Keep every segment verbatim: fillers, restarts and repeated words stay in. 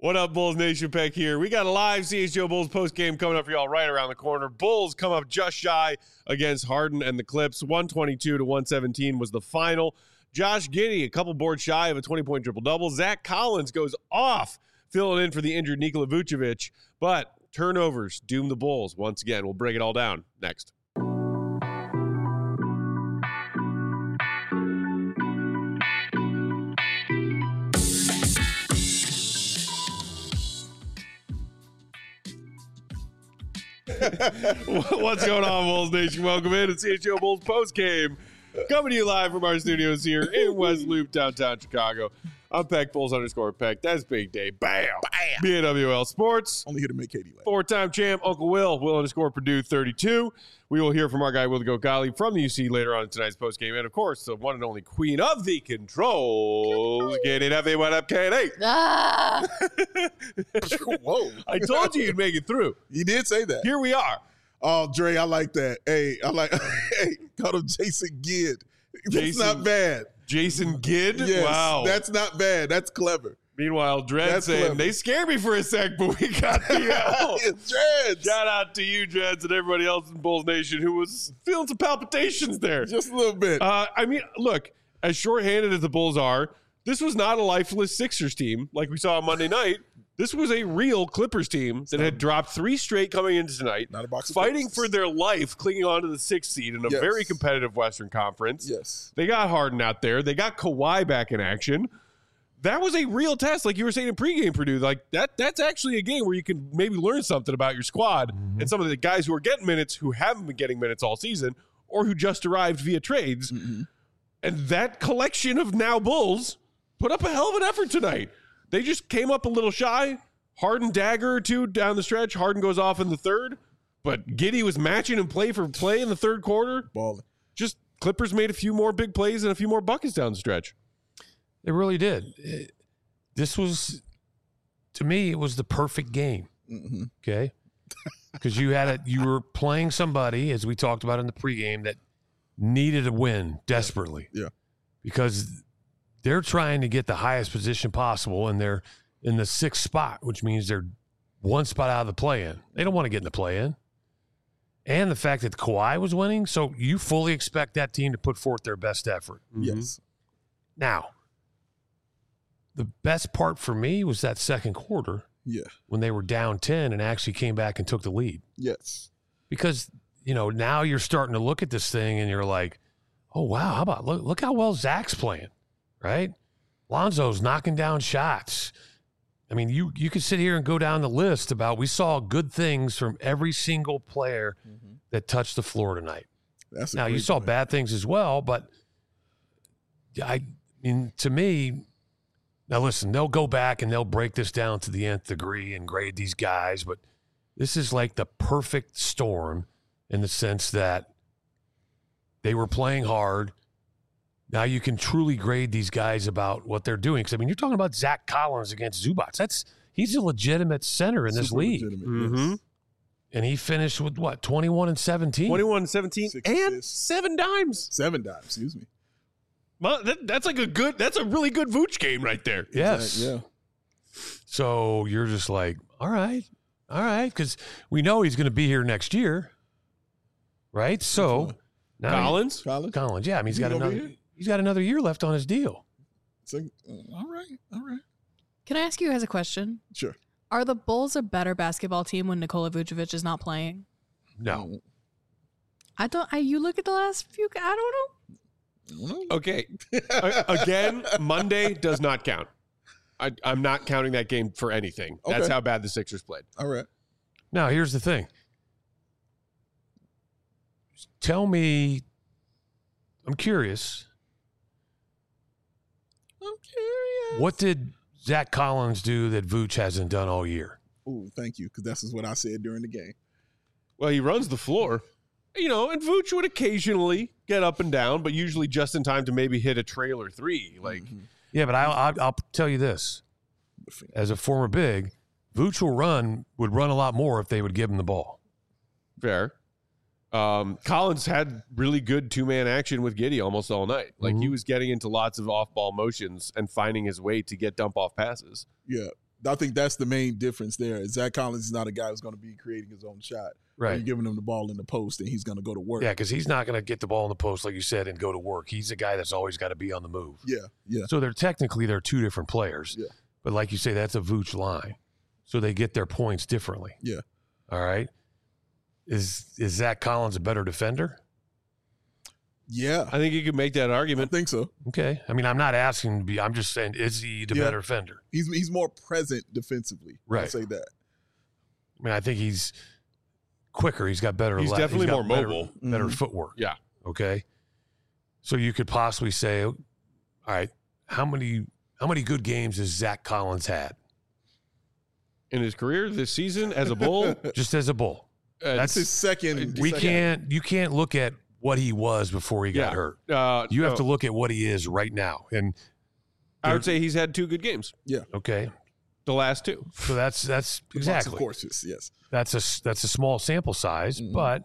What up, Bulls Nation? Peck here. We got a live C H G O Bulls post-game coming up for y'all right around the corner. Bulls come up just shy against Harden and the Clips. one twenty-two to one seventeen was the final. Josh Giddey, a couple boards shy of a twenty-point triple-double. Zach Collins goes off, filling in for the injured Nikola Vucevic. But turnovers doom the Bulls once again. We'll break it all down next. What's going on, Bulls Nation? Welcome in to C H G O Bulls post game. Coming to you live from our studios here in West Loop, downtown Chicago. I'm Peck, Bulls underscore Peck. That's Big Day. Bam! Bam! B A W L Sports. Only here to make Katie laugh. Four-time champ, Uncle Will. Will underscore Purdue thirty-two. We will hear from our guy, Will the Goat Gottlieb, from the U C later on in tonight's postgame. And, of course, the one and only queen of the controls, Katie Duffy. What up, Katie? Ah! Whoa. I told you you'd make it through. You did say that. Here we are. Oh, Dre, I like that. Hey, I like hey, call him Jason Gidd. That's Jason, not bad. Jason Gidd? Yes, Wow. That's not bad. That's clever. Meanwhile, Dredd That's saying, clever. they scared me for a sec, but we got the L. Dreads. Shout out to you, Dreads, and everybody else in Bulls Nation who was feeling some palpitations there. Just a little bit. Uh, I mean, look, as shorthanded as the Bulls are, this was not a lifeless Sixers team like we saw on Monday night. This was a real Clippers team that had dropped three straight coming into tonight, Not a box of fighting Clippers. for their life, clinging on to the sixth seed in a Yes. very competitive Western Conference. Yes. They got Harden out there. They got Kawhi back in action. That was a real test, like you were saying in pregame, Purdue. Like that, that's actually a game where you can maybe learn something about your squad Mm-hmm. and some of the guys who are getting minutes who haven't been getting minutes all season or who just arrived via trades. Mm-hmm. And that collection of now Bulls put up a hell of an effort tonight. They just came up a little shy. Harden dagger or two down the stretch. Harden goes off in the third, but Giddey was matching and play for play in the third quarter. Balling. Just Clippers made a few more big plays and a few more buckets down the stretch. They really did. It, this was, to me, it was the perfect game. Mm-hmm. Okay, because you had a you were playing somebody, as we talked about in the pregame, that needed a win desperately. Yeah. Because they're trying to get the highest position possible, and they're in the sixth spot, which means they're one spot out of the play-in. They don't want to get in the play-in. And the fact that Kawhi was winning, so you fully expect that team to put forth their best effort. Yes. Now, the best part for me was that second quarter Yeah. when they were down ten and actually came back and took the lead. Yes. Because, you know, now you're starting to look at this thing and you're like, oh, wow, how about look, look how well Zach's playing, right? Lonzo's knocking down shots. I mean, you you could sit here and go down the list about we saw good things from every single player Mm-hmm. that touched the floor tonight. That's a Now, you great saw point. bad things as well, but I mean, to me, now listen, they'll go back and they'll break this down to the nth degree and grade these guys, but this is like the perfect storm in the sense that they were playing hard. Now you can truly grade these guys about what they're doing. Because, I mean, you're talking about Zach Collins against Zubac. That's he's a legitimate center in this Super league. legitimate, Mm-hmm. yes. And he finished with, what, twenty-one and seventeen? twenty-one seventeen Six and assists. seven dimes. Seven dimes, excuse me. Well, that, that's like a good, that's a really good Vooch game right there. Yes. Yeah. So you're just like, all right, all right, because we know he's going to be here next year, right? So now he- Collins? Collins? Collins, yeah, I mean, he's He got gonna be another, here? he's got another year left on his deal. So, uh, all right. All right. Can I ask you guys a question? Sure. Are the Bulls a better basketball team when Nikola Vucevic is not playing? No, I don't. I, you look at the last few. I don't know. I don't know. Okay. A- Again, Monday does not count. I, I'm not counting that game for anything. That's Okay. how bad the Sixers played. All right. now here's the thing. Tell me, I'm curious, I'm curious. what did Zach Collins do that Vooch hasn't done all year? Oh, thank you, because that's just what I said during the game. Well, he runs the floor, you know, and Vooch would occasionally get up and down, but usually just in time to maybe hit a trailer three. Like, Mhm. Yeah, but I'll, I'll, I'll tell you this. As a former big, Vooch will run, would run a lot more if they would give him the ball. fair. Um, Collins had really good two-man action with Giddey almost all night. Like, he Mhm. was getting into lots of off-ball motions and finding his way to get dump-off passes. Yeah. I think that's the main difference there. Zach Collins is not a guy who's going to be creating his own shot. Right. You're giving him the ball in the post, and he's going to go to work. Yeah, because he's not going to get the ball in the post, like you said, and go to work. He's a guy that's always got to be on the move. Yeah, yeah. So they're technically they're two different players. Yeah. But like you say, that's a Vooch line. So they get their points differently. Yeah. All right. Is is Zach Collins a better defender? Yeah, I think you could make that I argument. think so. Okay. I mean, I'm not asking to be. I'm just saying, is he the Yeah. better defender? He's he's more present defensively. I'll Right. say that. I mean, I think he's quicker. He's got better. He's le- definitely got more better- mobile. Better Mhm. footwork. Yeah. Okay. So you could possibly say, all right, how many how many good games has Zach Collins had In his career this season as a Bull, just as a Bull? uh, That's his second. We second- can't. You can't look at what he was before he got Yeah. hurt. uh, You have no, to look at what he is right now. And I would say he's had two good games. okay, The last two. so that's that's Box of exactly courses, yes. that's a that's a small sample size, Mhm. but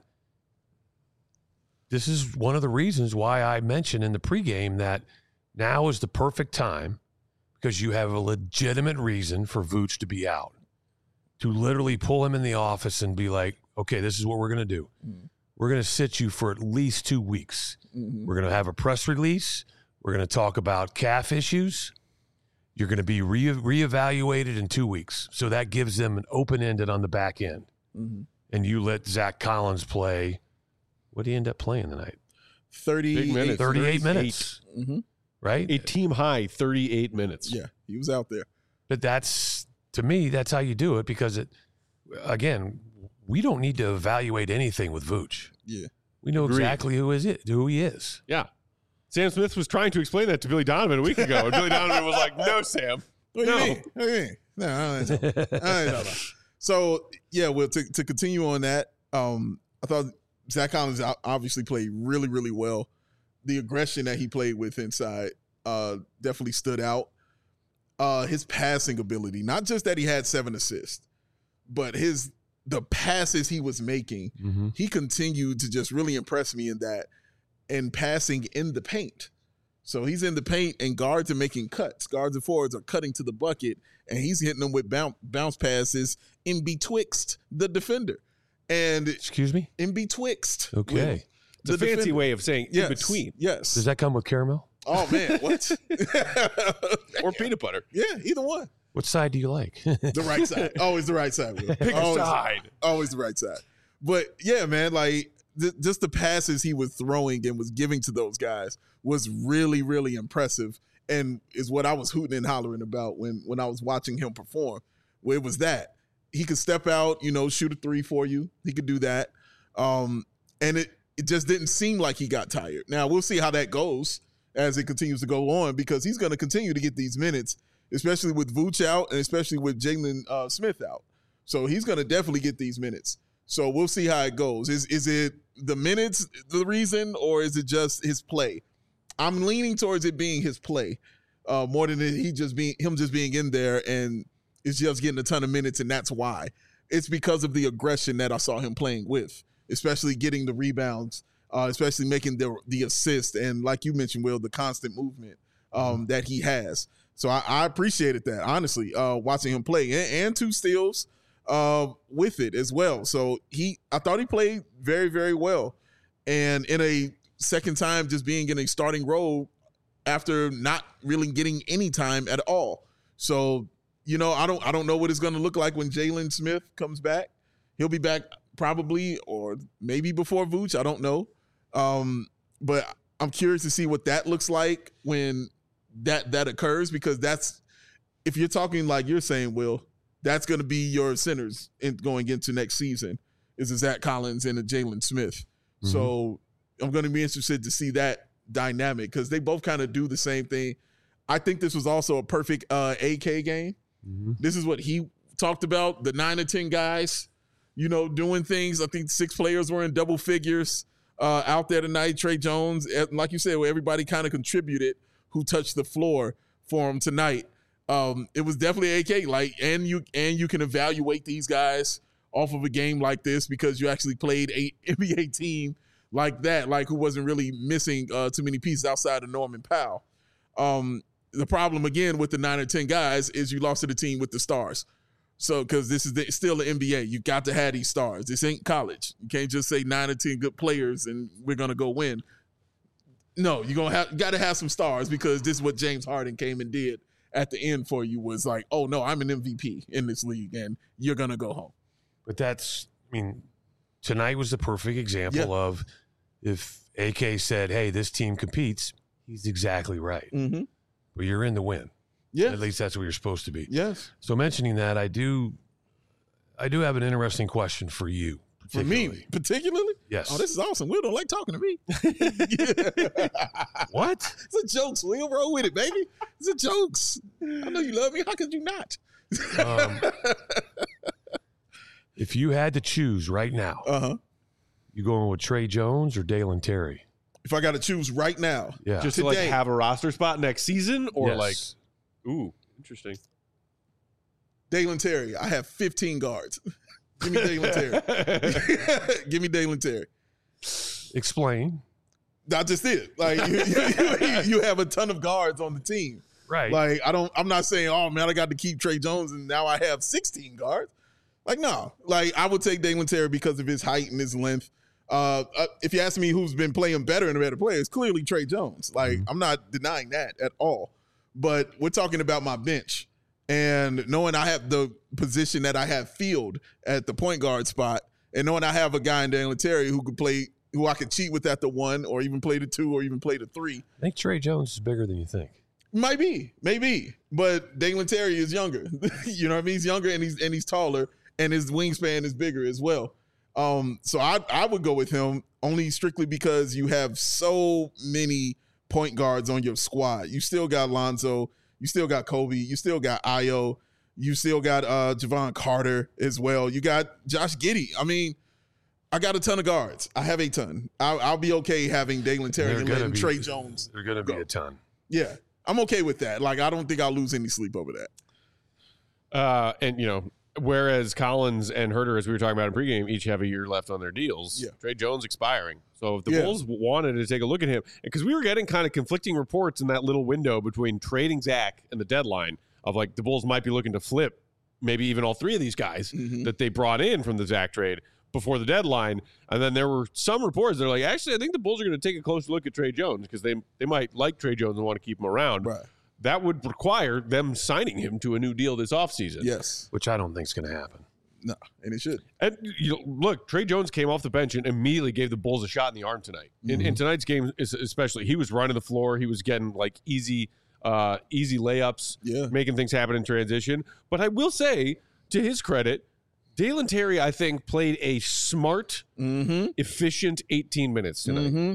this is one of the reasons why I mentioned in the pregame that now is the perfect time because you have a legitimate reason for Vooch to be out, to literally pull him in the office and be like, okay, this is what we're going to do. Mhm. We're going to sit you for at least two weeks. Mhm. We're going to have a press release. We're going to talk about calf issues. You're going to be re- reevaluated in two weeks. So that gives them an open-ended on the back end. Mhm. And you let Zach Collins play. What did he end up playing tonight? thirty-eight minutes. thirty-eight thirty-eight. minutes, Mhm. right? A team high thirty-eight minutes. Yeah, he was out there. But that's, to me, that's how you do it because, it. again, we don't need to evaluate anything with Vooch. Yeah. We know Agreed. exactly who is it, who he is. Yeah. Sam Smith was trying to explain that to Billy Donovan a week ago, and Billy Donovan was like, no, Sam. What do No. you mean? What do you mean? No, I don't know. I don't know. So yeah, well, to to continue on that, um, I thought Zach Collins o- obviously played really, really well. The aggression that he played with inside uh, definitely stood out. Uh, his passing ability, not just that he had seven assists, but his the passes he was making, Mm-hmm. he continued to just really impress me in that and passing in the paint. So he's in the paint and guards are making cuts. Guards and forwards are cutting to the bucket and he's hitting them with bounce, bounce passes in betwixt the defender. And Excuse me? in betwixt. Okay. It's a the fancy defender. way of saying Yes, in between. Yes. Does that come with caramel? Oh, man. What? Or peanut butter. Yeah, either one. What side do you like? The right side. Always the right side. Will. Pick a always, side. always the right side. But yeah, man, like th- just the passes he was throwing and was giving to those guys was really, really impressive, and is what I was hooting and hollering about when when I was watching him perform. Where it was that he could step out, you know, shoot a three for you. He could do that, um, and it it just didn't seem like he got tired. Now we'll see how that goes as it continues to go on because he's going to continue to get these minutes, especially with Vooch out and especially with Jalen uh, Smith out. So he's going to definitely get these minutes. So we'll see how it goes. Is is it the minutes the reason, or is it just his play? I'm leaning towards it being his play uh, more than he just being him just being in there and is just getting a ton of minutes, and that's why. It's because of the aggression that I saw him playing with, especially getting the rebounds, uh, especially making the the assist, and like you mentioned, Will, the constant movement um, that he has. So I, I appreciated that, honestly, uh, watching him play, and, and two steals uh, with it as well. So he, I thought he played very, very well, and in a second time, just being in a starting role after not really getting any time at all. So you know, I don't, I don't know what it's going to look like when Jalen Smith comes back. He'll be back probably, or maybe before Vooch. I don't know, um, but I'm curious to see what that looks like when that that occurs, because that's, if you're talking like you're saying, Will, that's going to be your centers in going into next season is a Zach Collins and a Jalen Smith. Mhm. So I'm going to be interested to see that dynamic because they both kind of do the same thing. I think this was also a perfect uh, A K game. Mm-hmm. This is what he talked about, the nine or ten guys, you know, doing things. I think six players were in double figures uh, out there tonight. Trey Jones, and like you said, where everybody kind of contributed who touched the floor for him tonight. Um, it was definitely A K. Like, and you and you can evaluate these guys off of a game like this because you actually played a N B A team like that, like who wasn't really missing uh, too many pieces outside of Norman Powell. Um, the problem again with the nine or ten guys is you lost to the team with the stars. So, because this is the, still the N B A, you got to have these stars. This ain't college. You can't just say nine or ten good players and we're gonna go win. No, you're gonna have got to have some stars because this is what James Harden came and did at the end for you. Was like, oh no, I'm an M V P in this league, and you're gonna go home. But that's, I mean, tonight was the perfect example Yeah. of if A K said, "Hey, this team competes," he's exactly right. Mm-hmm. But you're in the win. Yeah, At least that's what you're supposed to be. yes. So mentioning that, I do, I do have an interesting question for you. For me, particularly? Yes. Oh, this is awesome. Will don't like talking to me. What? It's a jokes. Will roll with it, baby. It's a jokes. I know you love me. How could you not? Um, if you had to choose right now, Uh-huh. you going with Trey Jones or Dalen Terry? If I got to choose right now, Yeah. Just to like Today. have a roster spot next season, or Yes. like, ooh, interesting. Dalen Terry, I have fifteen guards. Give me Dalen Terry. Give me Dalen Terry. Explain. Not just it. Like you, you, you have a ton of guards on the team. Right. Like I don't. I'm not saying, oh man, I got to keep Trey Jones and now I have sixteen guards. Like no. Like I would take Dalen Terry because of his height and his length. Uh, uh, if you ask me who's been playing better and a better player, it's clearly Trey Jones. Like Mm-hmm. I'm not denying that at all. But we're talking about my bench. And knowing I have the position that I have filled at the point guard spot, and knowing I have a guy in Dalen Terry who could play, who I could cheat with at the one, or even play the two, or even play the three. I think Trey Jones is bigger than you think. Might be, maybe, but Dalen Terry is younger. You know what I mean? He's younger and he's and he's taller, and his wingspan is bigger as well. Um, so I I would go with him only strictly because you have so many point guards on your squad. You still got Lonzo. You still got Kobe. You still got Ayo. You still got uh, Javon Carter as well. You got Josh Giddey. I mean, I got a ton of guards. I have a ton. I'll, I'll be okay having Dalen Terry They're and gonna letting be- Trey Jones. They're going to be go. a ton. Yeah, I'm okay with that. Like, I don't think I'll lose any sleep over that. Uh, and you know, whereas Collins and Herter, as we were talking about in pregame, each have a year left on their deals. Yeah. Trey Jones expiring. So if the Yeah. Bulls wanted to take a look at him, because we were getting kind of conflicting reports in that little window between trading Zach and the deadline of like the Bulls might be looking to flip maybe even all three of these guys Mhm. that they brought in from the Zach trade before the deadline. And then there were some reports that are like, actually, I think the Bulls are going to take a closer look at Trey Jones because they they might like Trey Jones and want to keep him around. Right. That would require them signing him to a new deal this offseason. Yes. Which I don't think is going to happen. No, and it should. And you know, look, Trey Jones came off the bench and immediately gave the Bulls a shot in the arm tonight. In, in tonight's game, es- especially, he was running the floor. He was getting like easy, uh, easy layups, Yeah. making things happen in transition. But I will say, to his credit, Dalen Terry, I think, played a smart, Mm-hmm. efficient eighteen minutes tonight. Mm-hmm.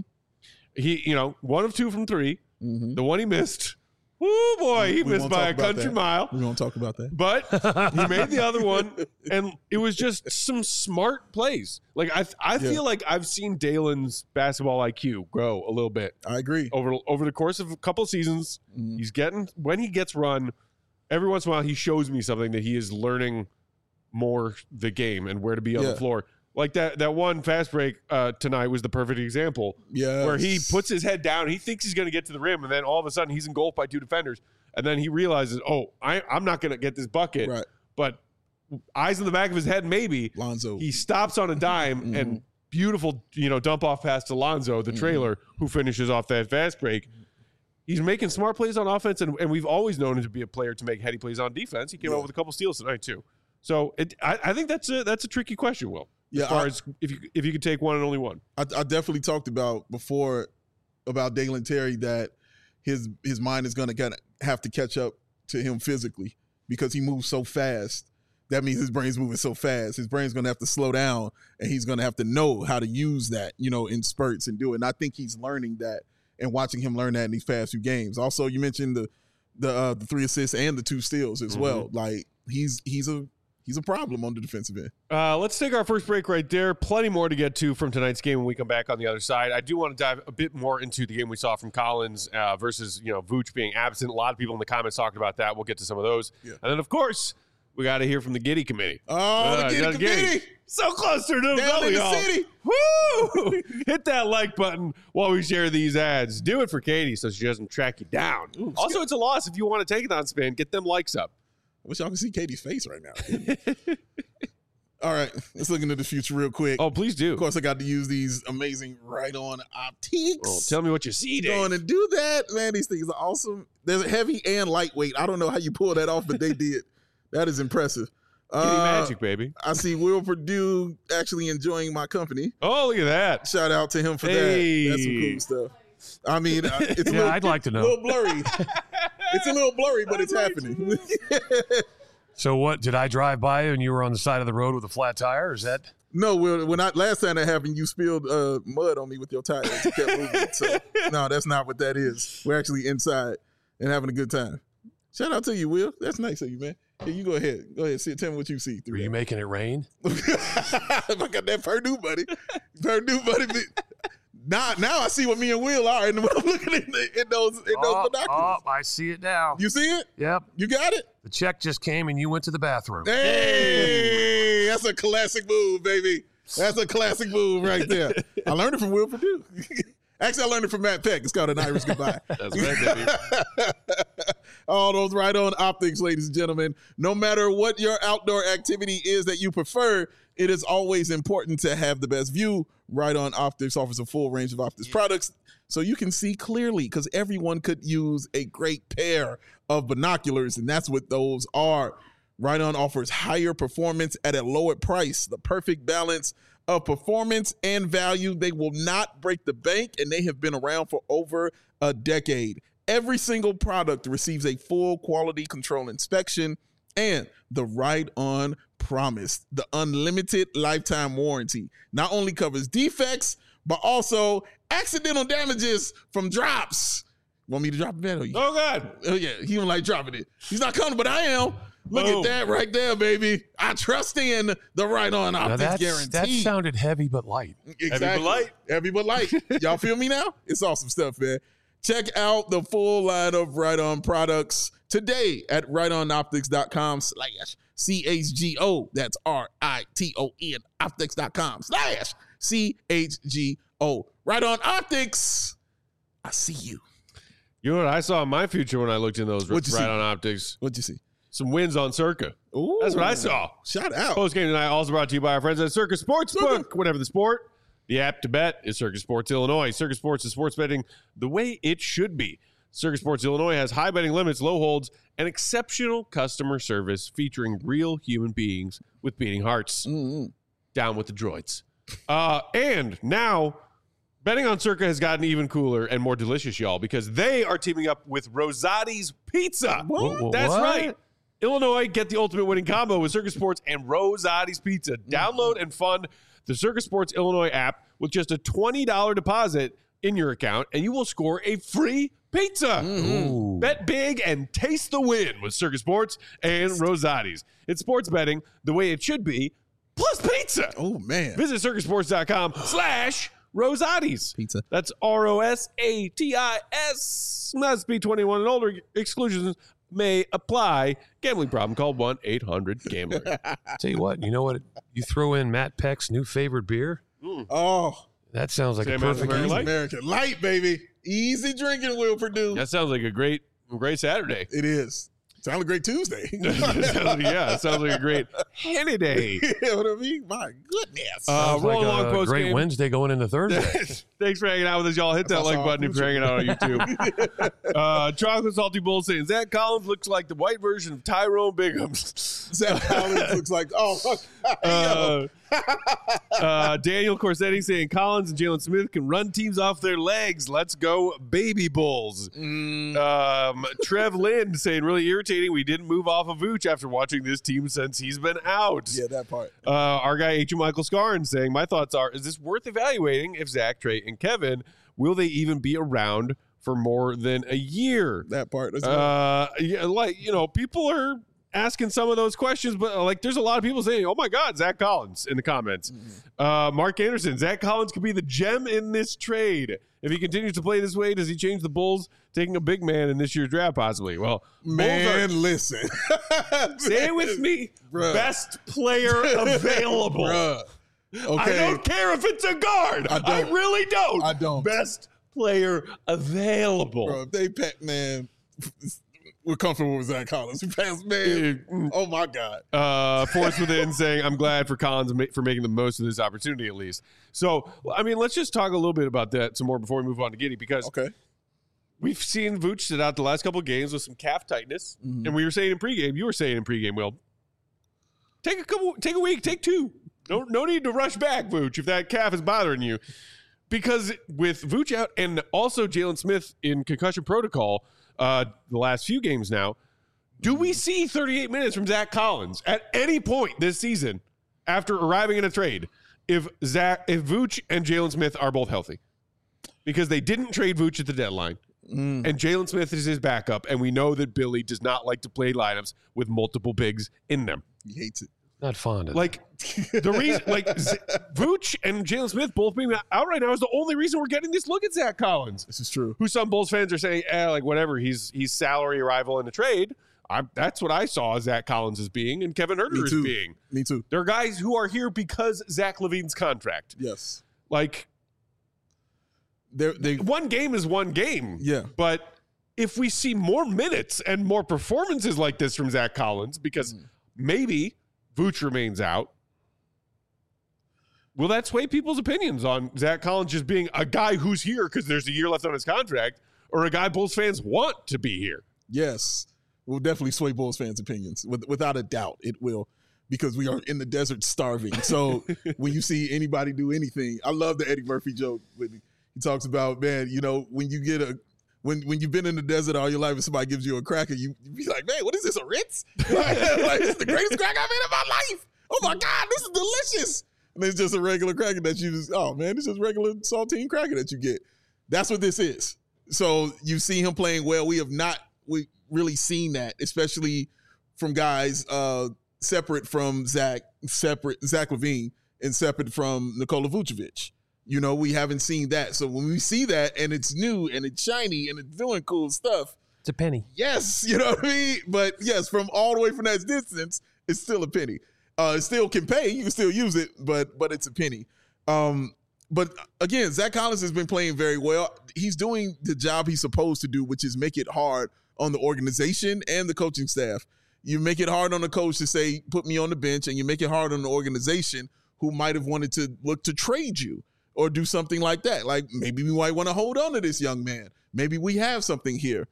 He, you know, one of two from three. Mm-hmm. The one he missed, oh boy, he We missed won't by talk a about country that. mile. We won't talk about that. But he made the other one, and it was just some smart plays. Like I, I Yeah. feel like I've seen Dalen's basketball I Q grow a little bit I agree. over over the course of a couple seasons. Mhm. He's getting when he gets run. Every once in a while, he shows me something that he is learning more the game and where to be on Yeah. the floor. Like that that one fast break uh, tonight was the perfect example Yeah. where he puts his head down. He thinks he's going to get to the rim, and then all of a sudden he's engulfed by two defenders. And then he realizes, oh, I, I'm not going to get this bucket. Right. But eyes in the back of his head, maybe. Lonzo. He stops on a dime Mhm. and beautiful, you know, dump off pass to Lonzo, the Mhm. trailer, who finishes off that fast break. He's making smart plays on offense, and, and we've always known him to be a player to make heady plays on defense. He came Yeah. out with a couple steals tonight too. So it, I, I think that's a that's a tricky question, Will. Yeah, as far I- as if you if you could take one and only one. I, I definitely talked about before about Dalen Terry that his his mind is going to kind of have to catch up to him physically because he moves so fast. That means his brain's moving so fast. His brain's going to have to slow down, and he's going to have to know how to use that, you know, in spurts and do it. And I think he's learning that and watching him learn that in these past few games. Also, you mentioned the the uh, the three assists and the two steals as well. Like he's he's a he's a problem on the defensive end. Uh, let's take our first break right there. Plenty more to get to from tonight's game when we come back on the other side. I do want to dive a bit more into the game we saw from Collins uh, versus, you know, Vooch being absent. A lot of people in the comments talking about that. We'll get to some of those. Yeah. And then, of course, we got to hear from the Giddey committee. Oh, Uh, the Giddey Giddey. committee. So close to the Down in the y'all. city. Woo! Hit that like button while we share these ads. Do it for Katie so she doesn't track you down. Ooh, also, skip. it's a loss if you want to take it on spin. Get them likes up. I wish y'all could see Katie's face right now. All right, let's look into the future real quick. Oh, please do. Of course, I got to use these amazing Right On optics. Oh, tell me what you see, Dave. Going to do that, man. These things are awesome. There's a heavy and lightweight. I don't know how you pull that off, but they did. That is impressive. Kitty Uh, magic, baby. I see Will Purdue actually enjoying my company. Oh, look at that. Shout out to him for Hey. that. That's some cool stuff. I mean, uh, it's a Yeah, little, I'd like to a know. little blurry. It's a little blurry, but it's happening. So what? Did I drive by you and you were on the side of the road with a flat tire? Is that? No, Will, when I last time that happened, you spilled uh, mud on me with your tires. You kept moving. So no, that's not what that is. We're actually inside and having a good time. Shout out to you, Will. That's nice of you, man. Here, you go ahead. Go ahead. See, tell me what you see through Were you that. making it rain? I got that Purdue buddy. Purdue buddy. Now, now I see what me and Will are, and when I'm looking in, the, in those in those Oh, binoculars. oh, I see it now. You see it? Yep. You got it? The check just came and you went to the bathroom. Hey, that's a classic move, baby. That's a classic move right there. I learned it from Will Purdue. Actually, I learned it from Matt Peck. It's called an Irish goodbye. That's right, baby. All those Right On optics, ladies and gentlemen. No matter what your outdoor activity is that you prefer, it is always important to have the best view. Right On Optics offers a full range of optics products so you can see clearly, because everyone could use a great pair of binoculars, and that's what those are. Right On offers higher performance at a lower price, the perfect balance of performance and value. They will not break the bank, and they have been around for over a decade. Every single product receives a full quality control inspection and the Right On Promise, the unlimited lifetime warranty. Not only covers defects, but also accidental damages from drops. Want me to drop it, man? Oh, yeah. Oh, God. Oh, yeah. He don't like dropping it. He's not coming, but I am. Look Boom. at that right there, baby. I trust in the Right On Now Optics that's, guarantee. that sounded heavy but light. Exactly. Heavy but light. Heavy but light. Y'all feel me now? It's awesome stuff, man. Check out the full line of Right On products today at rightonoptics.com slash C H G O. That's R I T O N optics.com slash C H G O. Right On Optics. I see you. You know what I saw in my future when I looked in those What'd you Right see? On optics? What'd you see? Some wins on Circa. Ooh. That's what I saw. Shout out. Post game tonight also brought to you by our friends at Circa Sportsbook. Whatever the sport, the app to bet is Circa Sports Illinois. Circa Sports is sports betting the way it should be. Circa Sports Illinois has high betting limits, low holds, and exceptional customer service featuring real human beings with beating hearts. Mm-hmm. Down with the droids. Uh, and now, betting on Circa has gotten even cooler and more delicious, y'all, because they are teaming up with Rosati's Pizza. What? Wha- That's what? right. Illinois, get the ultimate winning combo with Circa Sports and Rosati's Pizza. Download and fund the Circa Sports Illinois app with just a twenty dollars deposit in your account, and you will score a free pizza. Ooh. Bet big and taste the win with Circa Sports and Rosati's. It's sports betting the way it should be, plus pizza. Oh, man. Visit circusports.com slash Rosati's. Pizza. That's R O S A T I S. Must be twenty-one and older. Exclusions may apply. Gambling problem, call one eight hundred gambler. Tell you what, you know what? You throw in Matt Peck's new favorite beer. Oh, That sounds like Say a American perfect Very evening. Light? American Light, baby. Easy drinking, Will Purdue. That sounds like a great, great Saturday. It is. Sounds like a great Tuesday. Yeah, it sounds like a great Henny day. You know what I mean? My goodness. Uh, Sounds rolling like along a post great game. Wednesday going into Thursday. Thanks for hanging out with us, y'all. Hit that That's like awesome. button if you're hanging out on YouTube. uh, Chocolate Salty Bull saying Zach Collins looks like the white version of Tyrone Bigham. Zach Collins looks like, oh, fuck. Uh, uh, Daniel Corsetti saying Collins and Jalen Smith can run teams off their legs. Let's go, baby Bulls. Mm. Um, Trev Lind saying really irritating. We didn't move off of Vooch after watching this team since he's been out. Yeah, that part. Uh, our guy H. Michael Scarn saying, my thoughts are, is this worth evaluating if Zach, Trey, and Kevin, will they even be around for more than a year? That part. That's Uh, yeah, like, you know, people are asking some of those questions, but uh, like there's a lot of people saying, oh my God, Zach Collins in the comments. Mm-hmm. Uh, Mark Anderson, Zach Collins could be the gem in this trade. If he continues to play this way, does he change the Bulls taking a big man in this year's draft possibly? Well, Man, Bulls are, listen. say it with me, Bruh. best player available. Bruh. Okay. I don't care if it's a guard. I I, don't. really don't. I don't. Best player available. Bro, if they pack, man, we're comfortable with Zach Collins. We passed, man. Uh, Oh, my God. Uh, Force Within saying, I'm glad for Collins ma- for making the most of this opportunity at least. So, I mean, let's just talk a little bit about that some more before we move on to Giddey, because Okay. we've seen Vooch sit out the last couple of games with some calf tightness. Mhm. And we were saying in pregame, you were saying in pregame, Will, take a couple, take a week, take two. No, no need to rush back, Vooch, if that calf is bothering you. Because with Vooch out and also Jalen Smith in concussion protocol uh, the last few games now, do we see thirty-eight minutes from Zach Collins at any point this season after arriving in a trade if Zach, if Vooch and Jalen Smith are both healthy? Because they didn't trade Vooch at the deadline, Mm. and Jalen Smith is his backup, and we know that Billy does not like to play lineups with multiple bigs in them. He hates it. Not fond of Like the reason, like Z- Vooch and Jalen Smith both being out right now is the only reason we're getting this look at Zach Collins, This is true. who some Bulls fans are saying, eh, like whatever, he's he's salary arrival in the trade. I, that's what I saw Zach Collins as being, and Kevin Huerter Me as too. being. Me too. There are guys who are here because Zach LaVine's contract. Yes. Like They're, they, one game is one game. yeah. But if we see more minutes and more performances like this from Zach Collins, because Mm. maybe Vooch remains out, will that sway people's opinions on Zach Collins just being a guy who's here because there's a year left on his contract, or a guy Bulls fans want to be here? Yes. Will definitely sway Bulls fans' opinions. With, without a doubt, it will. Because we are in the desert starving. So when you see anybody do anything, I love the Eddie Murphy joke. With he talks about, man, you know, when you get a when when you've been in the desert all your life and somebody gives you a cracker, you, you be like, man, what is this, a Ritz? like, this is the greatest cracker I've had in my life. Oh my God, this is delicious. And it's just a regular cracker that you just, oh man, it's just regular saltine cracker that you get. That's what this is. So you see him playing well. We have not we really seen that, especially from guys uh, separate from Zach, separate Zach LaVine, and separate from Nikola Vucevic. You know, we haven't seen that. So when we see that and it's new and it's shiny and it's doing cool stuff, It's a penny. yes, you know what I mean? But yes, from all the way from that distance, it's still a penny. Uh, it still can pay. You can still use it, but but it's a penny. Um, but again, Zach Collins has been playing very well. He's doing the job he's supposed to do, which is make it hard on the organization and the coaching staff. You make it hard on the coach to say, put me on the bench, and you make it hard on the organization who might have wanted to look to trade you or do something like that. Like maybe we might want to hold on to this young man. Maybe we have something here.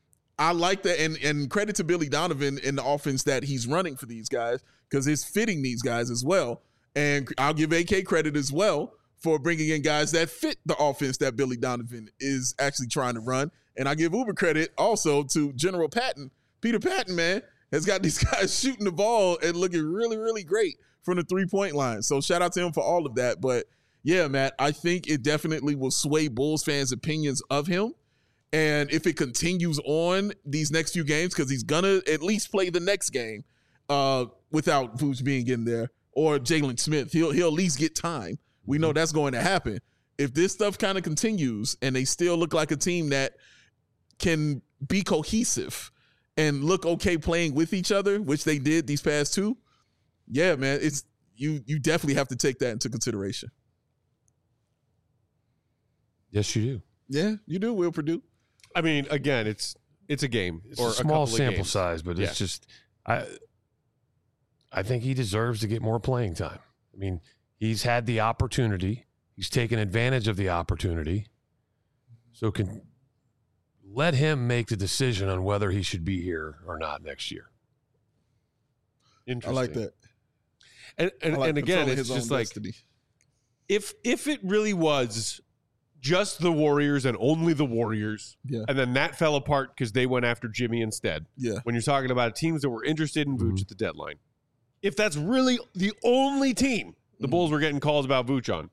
I like that, and, and credit to Billy Donovan in the offense that he's running for these guys, because it's fitting these guys as well. And I'll give A K credit as well for bringing in guys that fit the offense that Billy Donovan is actually trying to run. And I give Uber credit also to General Patton. Peter Patton, man, has got these guys shooting the ball and looking really, really great from the three-point line. So shout out to him for all of that. But, yeah, Matt, I think it definitely will sway Bulls fans' opinions of him. And if it continues on these next few games, because he's going to at least play the next game uh, without Vooch being in there, or Jalen Smith, he'll, he'll at least get time. We know that's going to happen. If this stuff kind of continues and they still look like a team that can be cohesive and look okay playing with each other, which they did these past two, yeah, man, it's you you definitely have to take that into consideration. Yes, you do. Yeah, you do, Will Purdue. I mean, again, it's it's a game. It's or a small couple of sample games. size, but Yeah. it's just I I think he deserves to get more playing time. I mean, he's had the opportunity. He's taken advantage of the opportunity. So can let him make the decision on whether he should be here or not next year. I Interesting. like that. And and, I like and again, controlling it's his just own like destiny. if if it really was just the Warriors and only the Warriors, Yeah. and then that fell apart because they went after Jimmy instead. Yeah. When you're talking about teams that were interested in Vooch Mhm. at the deadline, if that's really the only team the Mhm. Bulls were getting calls about Vooch on,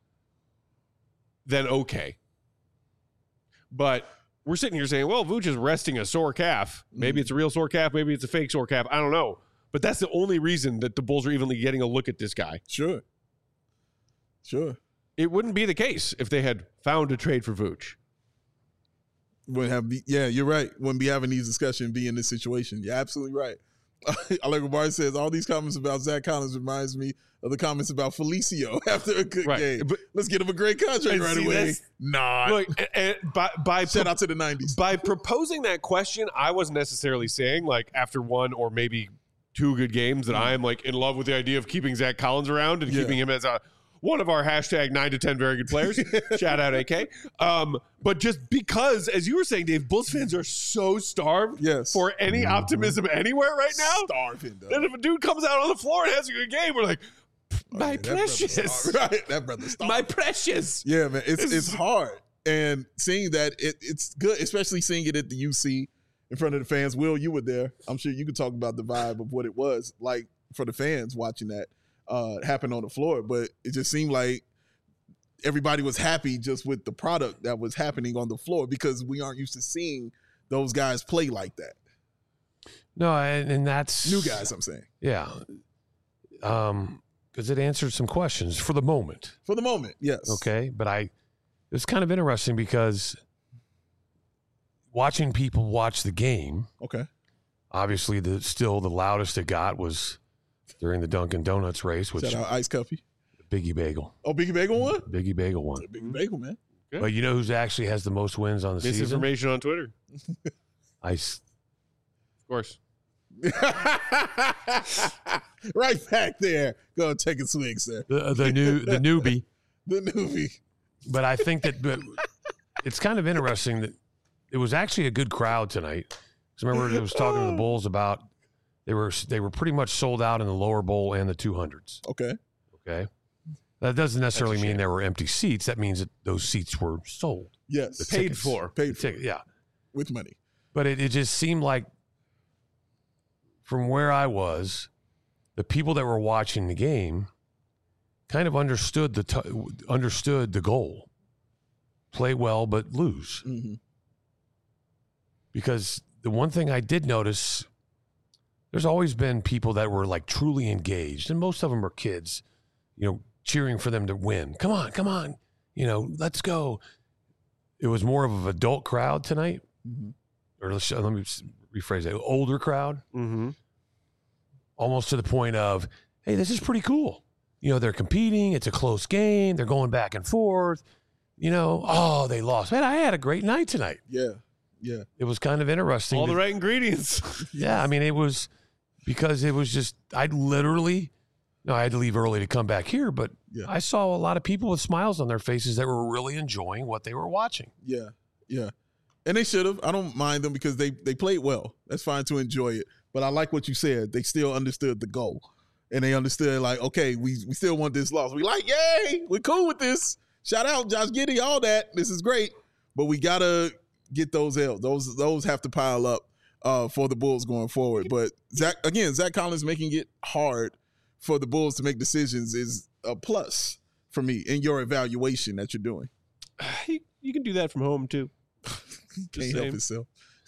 then okay. But we're sitting here saying, well, Vooch is resting a sore calf. Maybe Mhm. it's a real sore calf. Maybe it's a fake sore calf. I don't know. But that's the only reason that the Bulls are even getting a look at this guy. Sure. Sure. it wouldn't be the case if they had found a trade for Vooch. Wouldn't have be, yeah, you're right. Wouldn't be having these discussions, be in this situation. You're absolutely right. I like what Barry says. All these comments about Zach Collins reminds me of the comments about Felicio after a good Right. game. But- Let's get him a great contract And right see, away. that's- Nah. Look, and by by Shout out to the nineties. by proposing that question, I wasn't necessarily saying like after one or maybe two good games that I am like in love with the idea of keeping Zach Collins around and Yeah. keeping him as a one of our hashtag nine to ten very good players. Shout out A K. Um, but just because, as you were saying, Dave, Bulls fans are so starved Yes. for any optimism anywhere right now. Starving, though. That if a dude comes out on the floor and has a good game, we're like, my Oh, yeah, that brother's precious, starving. Right. That brother's starving. my precious. Yeah, man, it's This it's is- hard, and seeing that it, it's good, especially seeing it at the U C in front of the fans. Will, you were there. I'm sure you could talk about the vibe of what it was like for the fans watching that uh, happen on the floor. But it just seemed like everybody was happy just with the product that was happening on the floor because we aren't used to seeing those guys play like that. No, and, and that's New guys, I'm saying, Yeah. Um, because it answered some questions for the moment. for the moment, yes. Okay. But I, it was kind of interesting because watching people watch the game, Okay. obviously the still the loudest it got was during the Dunkin' Donuts race, which Shout out Ice Cuffy. Biggie Bagel. Oh, Biggie Bagel won. Biggie Bagel won. Biggie Bagel, man. Yeah. But you know who's actually has the most wins on the season? Misinformation on Twitter, Ice. of course. Right back there. Go take a swing, sir. The, the new the newbie. The newbie. But I think that but it's kind of interesting that it was actually a good crowd tonight. Because remember, it was talking to the Bulls about they were they were pretty much sold out in the lower bowl and the two hundreds. Okay. Okay, that doesn't necessarily That's a mean shame. there were empty seats. That means that those seats were sold, Yes. The Paid tickets. for. Paid The for. ticket, yeah. With money. But it, it just seemed like from where I was, the people that were watching the game kind of understood the t- understood the goal: play well but lose. Mm-hmm. Because the one thing I did notice, there's always been people that were like truly engaged, and most of them are kids, you know, cheering for them to win. Come on, come on, you know, let's go. It was more of an adult crowd tonight, Mm-hmm. or let's, let me rephrase it, older crowd, Mm-hmm. almost to the point of, hey, this is pretty cool. You know, they're competing. It's a close game. They're going back and forth. You know, oh, they lost. Man, I had a great night tonight. Yeah. Yeah. It was kind of interesting. All to- the right ingredients. Yeah, I mean, it was because it was just, I literally, no, I had to leave early to come back here, but Yeah. I saw a lot of people with smiles on their faces that were really enjoying what they were watching. Yeah. Yeah. And they should have. I don't mind them because they they played well. That's fine to enjoy it. But I like what you said. They still understood the goal. And they understood, like, okay, we, we still want this loss. We like, yay, we're cool with this. Shout out Josh Giddey, all that. This is great. But we gotta get those L's. Those those have to pile up uh, for the Bulls going forward. But Zach again, Zach Collins making it hard for the Bulls to make decisions is a plus for me in your evaluation that you're doing. you, you can do that from home too. He Just can't saying. help himself.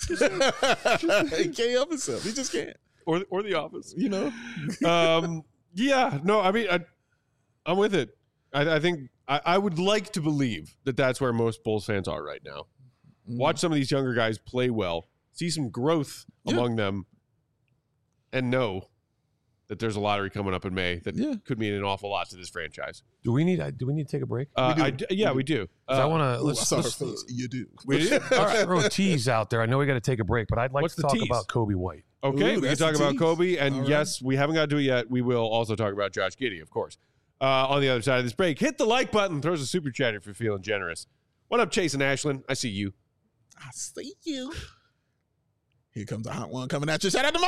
He can't help himself. He just can't. Or or the office. You know. um, yeah, no, I mean, I, I'm with it. I, I think I, I would like to believe that that's where most Bulls fans are right now. Watch some of these younger guys play well, see some growth Yeah. among them, and know that there's a lottery coming up in May that Yeah. could mean an awful lot to this franchise. Do we need, do we need to take a break? Uh, do. I d- yeah, we do. 'Cause I Uh, want to, Ooh, I let's, saw her let's, face. You do. we do? let's throw a tease out there. I know we got to take a break, but I'd like What's to the talk tease? about Kobe White. Okay, Ooh, we can that's talk the about tease. Kobe, and All right. yes, we haven't got to do it yet. We will also talk about Josh Giddey, of course. Uh, on the other side of this break, hit the like button, throws a super chat if you're feeling generous. What up, Chase and Ashlyn? I see you. I see you. Here comes a hot one coming at you. Shout out to my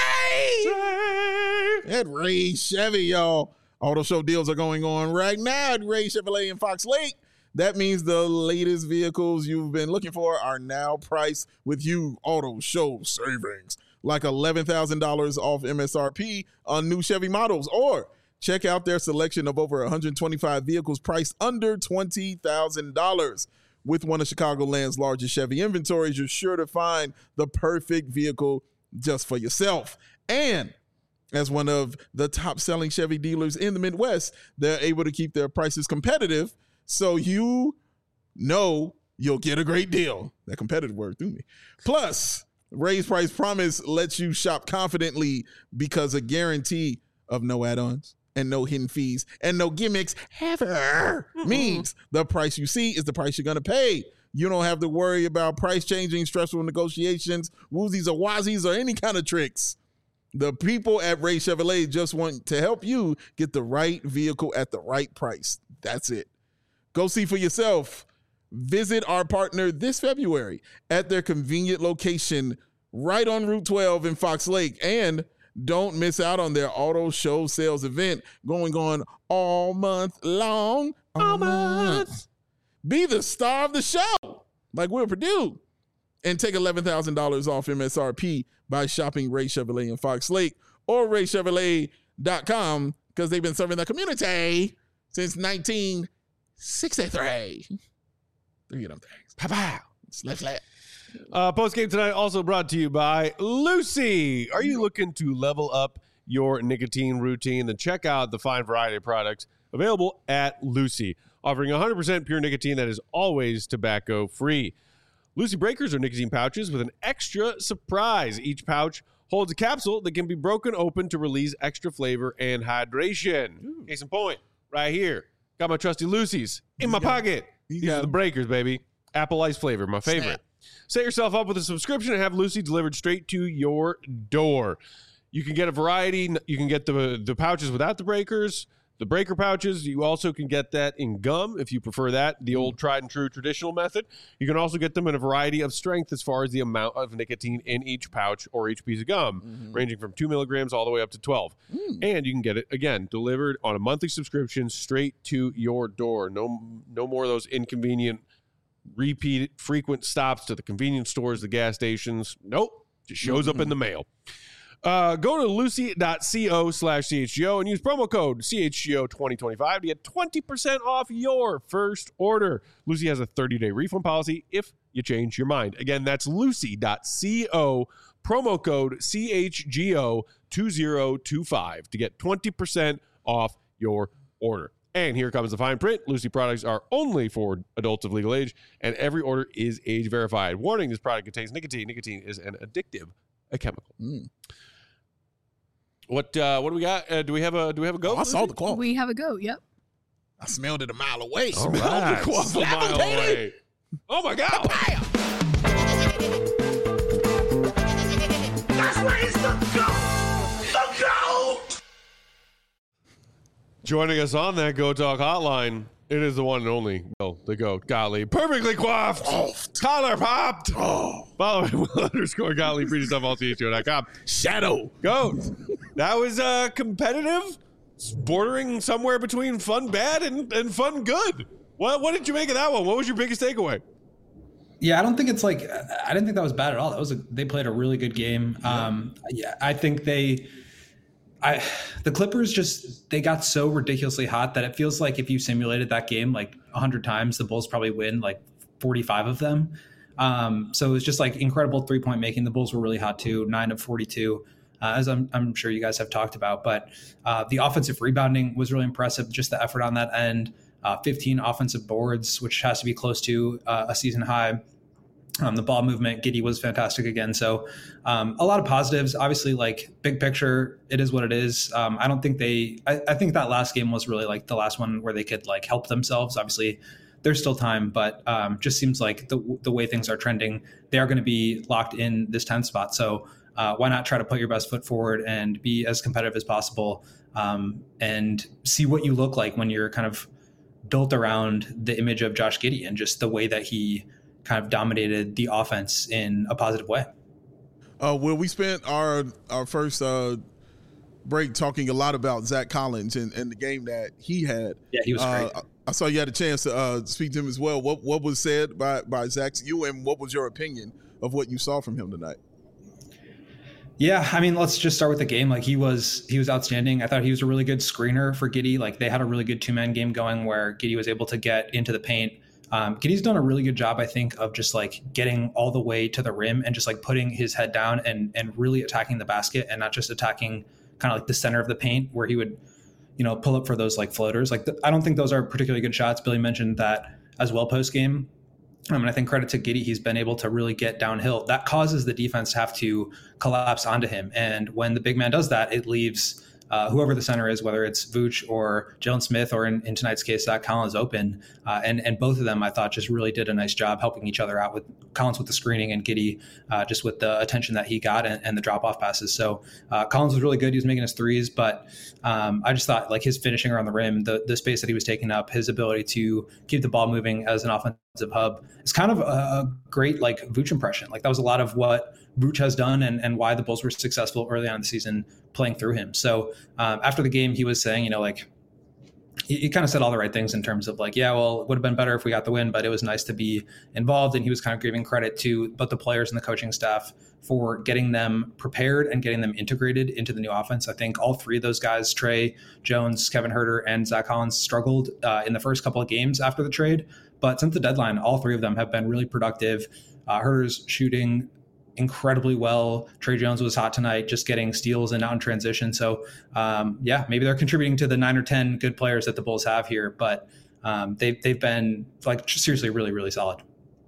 man Ray. At Ray Chevy, y'all. Auto show deals are going on right now at Ray Chevrolet in Fox Lake. That means the latest vehicles you've been looking for are now priced with you auto show savings, like eleven thousand dollars off M S R P on new Chevy models, or check out their selection of over one hundred twenty-five vehicles priced under twenty thousand dollars. With one of Chicagoland's largest Chevy inventories, you're sure to find the perfect vehicle just for yourself. And As one of the top-selling Chevy dealers in the Midwest, they're able to keep their prices competitive, so you know you'll get a great deal. That competitive word threw me. Plus, Ray's Price Promise lets you shop confidently because a guarantee of no add-ons and no hidden fees and no gimmicks ever means the price you see is the price you're going to pay. You don't have to worry about price changing, stressful negotiations, woozies or wazies, or any kind of tricks. The people at Ray Chevrolet just want to help you get the right vehicle at the right price. That's it. Go see for yourself. Visit our partner this February at their convenient location right on Route twelve in Fox Lake. And don't miss out on their auto show sales event going on all month long. All month. Be the star of the show, like Will Purdue, and take eleven thousand dollars off M S R P by shopping Ray Chevrolet in Fox Lake or ray chevrolet dot com because they've been serving the community since nineteen sixty-three. Three of them things. Pow-pow. Slap, slap. Uh, Post game tonight also brought to you by Lucy. Are you looking to level up your nicotine routine? Then check out the fine variety of products available at Lucy, offering one hundred percent pure nicotine that is always tobacco free. Lucy Breakers are nicotine pouches with an extra surprise. Each pouch holds a capsule that can be broken open to release extra flavor and hydration. Ooh. Case in point, right here. Got my trusty Lucy's in my pocket. These are the Breakers, baby. Apple ice flavor, my favorite. Snap. Set yourself up with a subscription and have Lucy delivered straight to your door. You can get a variety. You can get the, the pouches without the breakers, the breaker pouches. You also can get that in gum if you prefer that, the old tried and true traditional method. You can also get them in a variety of strength as far as the amount of nicotine in each pouch or each piece of gum, mm-hmm. ranging from two milligrams all the way up to twelve. Mm. And you can get it, again, delivered on a monthly subscription straight to your door. No, no more of those inconvenient, repeat, frequent stops to the convenience stores, the gas stations. Nope. Just shows mm-hmm. up in the mail. Uh, go to lucy.co slash CHGO and use promo code C H G O twenty twenty-five to get twenty percent off your first order. Lucy has a thirty-day refund policy if you change your mind. Again, that's lucy.co, promo code C H G O twenty twenty-five to get twenty percent off your order. And here comes the fine print. Lucy products are only for adults of legal age, and every order is age verified. Warning, this product contains nicotine. Nicotine is an addictive a chemical. Mm. What uh, what do we got? Uh, do we have a do we have a goat? Oh, I saw the quaff. We have a goat. Yep. I smelled it a mile away. All smelled right. the quaff a mile away. Oh my God! That's where it's the goat. The goat. Joining us on that Go Talk hotline, it is the one and only, oh, the GOAT, Gottlieb. Perfectly coiffed. Oh, collar popped. Oh. Follow him with underscore Gottlieb. Free stuff all C H G O dot com. Shadow. GOAT. That was uh, competitive, bordering somewhere between fun bad and, and fun good. What, what did you make of that one? What was your biggest takeaway? Yeah, I don't think it's like, I didn't think that was bad at all. That was a, they played a really good game. Yeah. Um, yeah, I think they... I, the Clippers just, they got so ridiculously hot that it feels like if you simulated that game like one hundred times, the Bulls probably win like forty-five of them. Um, so it was just like incredible three-point making. The Bulls were really hot too, nine of forty-two, uh, as I'm, I'm sure you guys have talked about. But uh, the offensive rebounding was really impressive, just the effort on that end. Uh, fifteen offensive boards, which has to be close to uh, a season high. Um, the ball movement, Giddey was fantastic again. So um, a lot of positives. Obviously, like big picture, it is what it is. Um, I don't think they, I, I think that last game was really like the last one where they could like help themselves. Obviously, there's still time, but um, just seems like the the way things are trending, they are going to be locked in this tenth spot. So uh, why not try to put your best foot forward and be as competitive as possible um, and see what you look like when you're kind of built around the image of Josh Giddey and just the way that he kind of dominated the offense in a positive way. Uh, well, we spent our our first uh, break talking a lot about Zach Collins and, and the game that he had. Yeah, he was uh, great. I saw you had a chance to uh, speak to him as well. What what was said by, by Zach to you, and what was your opinion of what you saw from him tonight? Yeah, I mean, let's just start with the game. Like he was he was outstanding. I thought he was a really good screener for Giddey. Like they had a really good two-man game going where Giddey was able to get into the paint. Um, Giddey's done a really good job, I think, of just like getting all the way to the rim and just like putting his head down and and really attacking the basket and not just attacking kind of like the center of the paint where he would, you know, pull up for those like floaters. Like the, I don't think those are particularly good shots. Billy mentioned that as well post game. I mean, I think credit to Giddey, he's been able to really get downhill. That causes the defense to have to collapse onto him. And when the big man does that, it leaves uh, whoever the center is, whether it's Vooch or Jalen Smith, or in, in tonight's case, Zach Collins open. Uh, and, and both of them, I thought, just really did a nice job helping each other out, with Collins with the screening and Giddey uh, just with the attention that he got and, and the drop-off passes. So uh, Collins was really good. He was making his threes, but um, I just thought like his finishing around the rim, the, the space that he was taking up, his ability to keep the ball moving as an offensive hub, it's kind of a, a great like Vooch impression. Like that was a lot of what Vooch has done and, and why the Bulls were successful early on in the season playing through him. So um, after the game, he was saying, you know, like he, he kind of said all the right things in terms of like, yeah, well, it would have been better if we got the win, but it was nice to be involved. And he was kind of giving credit to both the players and the coaching staff for getting them prepared and getting them integrated into the new offense. I think all three of those guys, Trey Jones, Kevin Huerter, and Zach Collins, struggled uh, in the first couple of games after the trade. But since the deadline, all three of them have been really productive. Uh, Huerter's shooting incredibly well. Trey Jones was hot tonight, just getting steals and out in transition. So, um, yeah, maybe they're contributing to the nine or ten good players that the Bulls have here. But um, they've, they've been, like, seriously, really, really solid.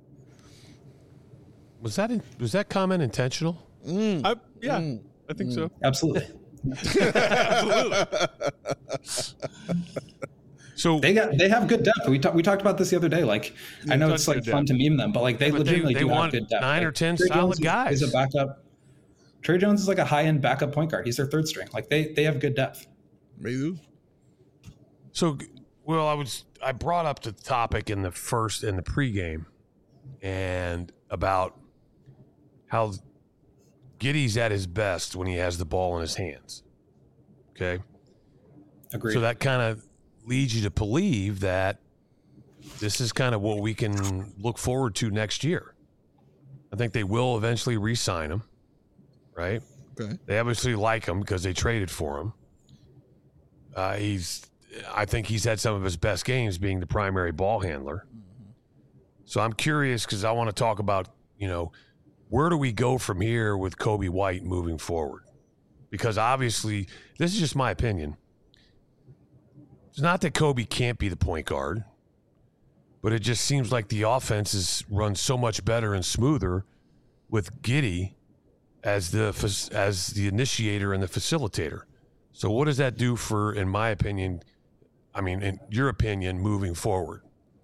Was that in, was that comment intentional? Mm. I, yeah, Mm. I think Mm. so. Absolutely. Absolutely. So They got they have good depth. We talked we talked about this the other day. Like I know it's touch like good fun to meme them, but like they Yeah, but they- legitimately they do have want good depth. nine Like, or ten Trey solid Jones is- guys. Is a backup. Trey Jones is like a high end backup point guard. He's their third string. Like they they have good depth. Maybe. So, well, I was I brought up the topic in the first in the pregame, and about how Giddey's at his best when he has the ball in his hands. Okay, Agreed. so that kind of leads you to believe that this is kind of what we can look forward to next year. I think they will eventually re-sign him, right? Okay. They obviously like him because they traded for him. Uh, he's, I think he's had some of his best games being the primary ball handler. So I'm curious because I want to talk about, you know, where do we go from here with Coby White moving forward? Because obviously, this is just my opinion. It's not that Coby can't be the point guard, but it just seems like the offense is run so much better and smoother with Giddey as the as the initiator and the facilitator. So what does that do for, in my opinion, I mean, in your opinion, moving forward?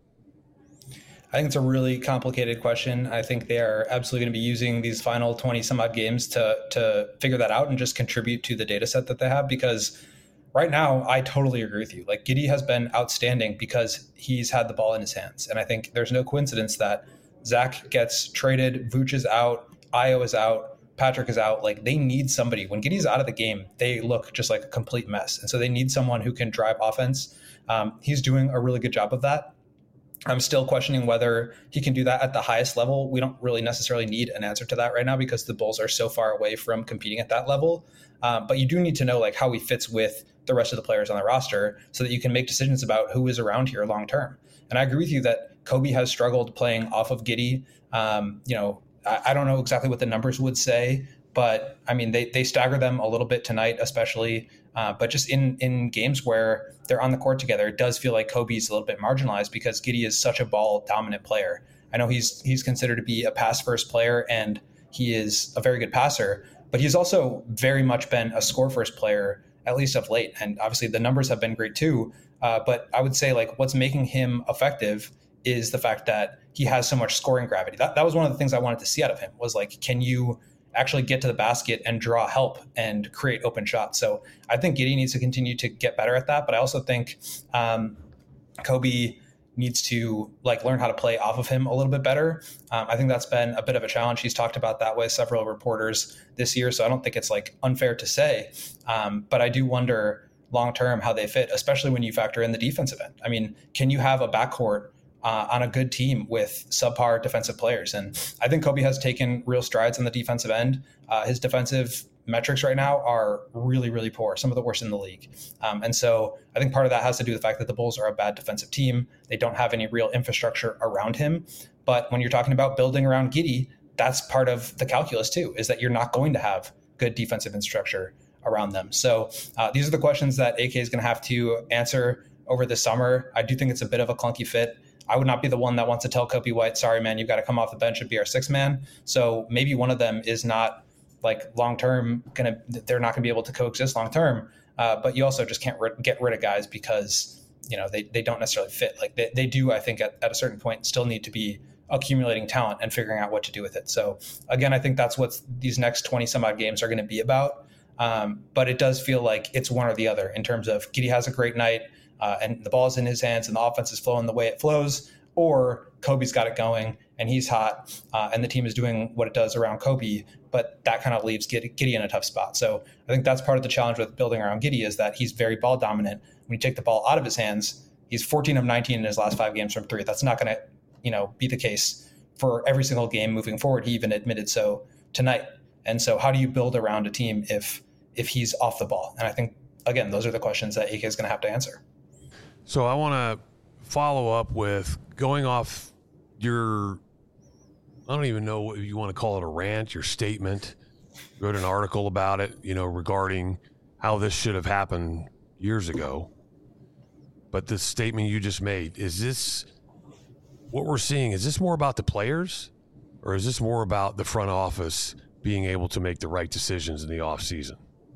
I think it's a really complicated question. I think they are absolutely going to be using these final twenty some odd games to to figure that out and just contribute to the data set that they have, because right now, I totally agree with you. Like Giddey has been outstanding because he's had the ball in his hands. And I think there's no coincidence that Zach gets traded, Vooch is out, Ayo is out, Patrick is out. Like they need somebody. When Giddey's out of the game, they look just like a complete mess. And so they need someone who can drive offense. Um, he's doing a really good job of that. I'm still questioning whether he can do that at the highest level. We don't really necessarily need an answer to that right now because the Bulls are so far away from competing at that level. Um, but you do need to know like how he fits with the rest of the players on the roster so that you can make decisions about who is around here long term. And I agree with you that Coby has struggled playing off of Giddey. Um, you know, I, I don't know exactly what the numbers would say, but I mean, they they stagger them a little bit tonight, especially. Uh, but just in in games where they're on the court together, it does feel like Kobe's a little bit marginalized because Giddey is such a ball dominant player. I know he's he's considered to be a pass first player and he is a very good passer, but he's also very much been a score first player, at least of late. And obviously the numbers have been great too. Uh, but I would say like what's making him effective is the fact that he has so much scoring gravity. That that was one of the things I wanted to see out of him was like, can you actually get to the basket and draw help and create open shots? So I think Giddey needs to continue to get better at that. But I also think um, Coby needs to like learn how to play off of him a little bit better. Um, I think that's been a bit of a challenge. He's talked about that with several reporters this year. So I don't think it's like unfair to say, um, but I do wonder long-term how they fit, especially when you factor in the defensive end. I mean, can you have a backcourt Uh, on a good team with subpar defensive players? And I think Coby has taken real strides on the defensive end. Uh, his defensive metrics right now are really, really poor, some of the worst in the league. Um, and so I think part of that has to do with the fact that the Bulls are a bad defensive team. They don't have any real infrastructure around him. But when you're talking about building around Giddey, that's part of the calculus too, is that you're not going to have good defensive infrastructure around them. So uh, these are the questions that A K is going to have to answer over the summer. I do think it's a bit of a clunky fit. I would not be the one that wants to tell Coby White, sorry, man, you've got to come off the bench and be our sixth man. So maybe one of them is not like long-term going to, they're not going to be able to coexist long-term. Uh, but you also just can't ri- get rid of guys because, you know, they, they don't necessarily fit. Like they, they do, I think at, at a certain point still need to be accumulating talent and figuring out what to do with it. So again, I think that's what these next twenty some odd games are going to be about. Um, but it does feel like it's one or the other in terms of Giddey has a great night uh, and the ball's in his hands and the offense is flowing the way it flows, or Coby's got it going and he's hot uh, and the team is doing what it does around Coby, but that kind of leaves Giddey in a tough spot. So I think that's part of the challenge with building around Giddey is that he's very ball dominant. When you take the ball out of his hands, he's fourteen of nineteen in his last five games from three. That's not going to, you know, be the case for every single game moving forward. He even admitted so tonight. And so how do you build around a team if if he's off the ball? And I think, again, those are the questions that A K is going to have to answer. So I want to follow up with going off your, I don't even know what you want to call it, a rant, your statement. You wrote an article about it, you know, regarding how this should have happened years ago. But this statement you just made, is this what we're seeing? Is this more about the players or is this more about the front office being able to make the right decisions in the off season?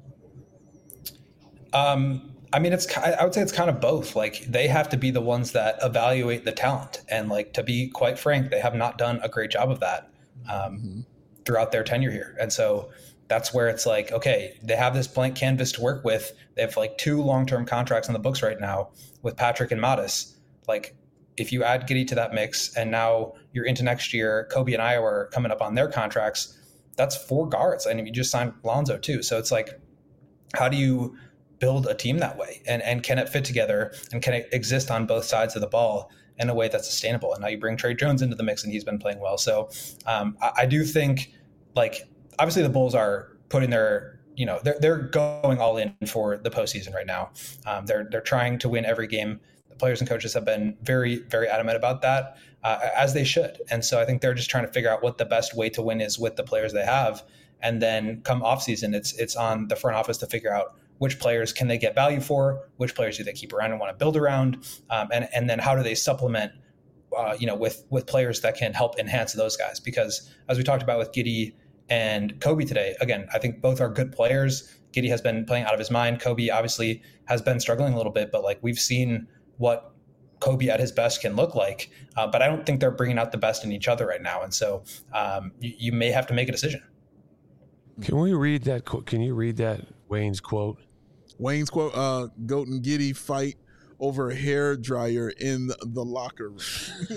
Um, I mean, it's, I would say it's kind of both. Like they have to be the ones that evaluate the talent. And like, to be quite frank, they have not done a great job of that um, mm-hmm. throughout their tenure here. And so that's where it's like, okay, they have this blank canvas to work with. They have like two long-term contracts on the books right now with Patrick and Modis. Like if you add Giddey to that mix and now you're into next year, Coby and Iowa are coming up on their contracts, that's four guards. And you just signed Lonzo too. So it's like, how do you build a team that way? And and can it fit together and can it exist on both sides of the ball in a way that's sustainable? And now you bring Trey Jones into the mix and he's been playing well. So um, I, I do think like, obviously the Bulls are putting their, you know, they're, they're going all in for the postseason right now. Um, they're, they're trying to win every game. The players and coaches have been very, very adamant about that, uh, as they should. And so I think they're just trying to figure out what the best way to win is with the players they have. And then come off season, it's, it's on the front office to figure out which players can they get value for, which players do they keep around and want to build around. Um, and, and then how do they supplement, uh, you know, with, with players that can help enhance those guys? Because as we talked about with Giddey and Coby today, again, I think both are good players. Giddey has been playing out of his mind. Coby obviously has been struggling a little bit, but like we've seen what Coby at his best can look like. Uh, but I don't think they're bringing out the best in each other right now. And so um, you, you may have to make a decision. Can we read that? Can you read that Wayne's quote? Wayne's quote, uh, Goat and Giddey fight over a hair dryer in the locker room.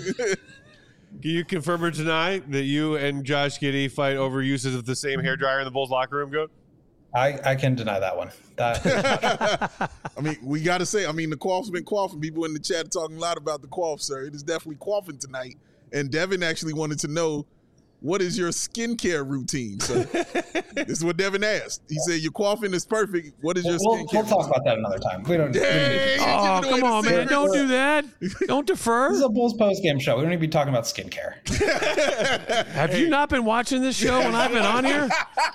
Can you confirm or deny that you and Josh Giddey fight over uses of the same hairdryer in the Bulls locker room, Goat? I, I can deny that one. That I mean, we got to say, I mean, the quaff's been quaffing. People in the chat are talking a lot about the quaff, sir. It is definitely quaffing tonight. And Devin actually wanted to know, what is your skincare routine? So this is what Devin asked. He said, your quaffing is perfect. What is your we'll, skincare We'll talk about that another time. We don't, Dang, we Oh, don't come on, man. Don't do that. Don't defer. This is a Bulls post-game show. We don't need to be talking about skincare. Have you not been watching this show when I've been on here?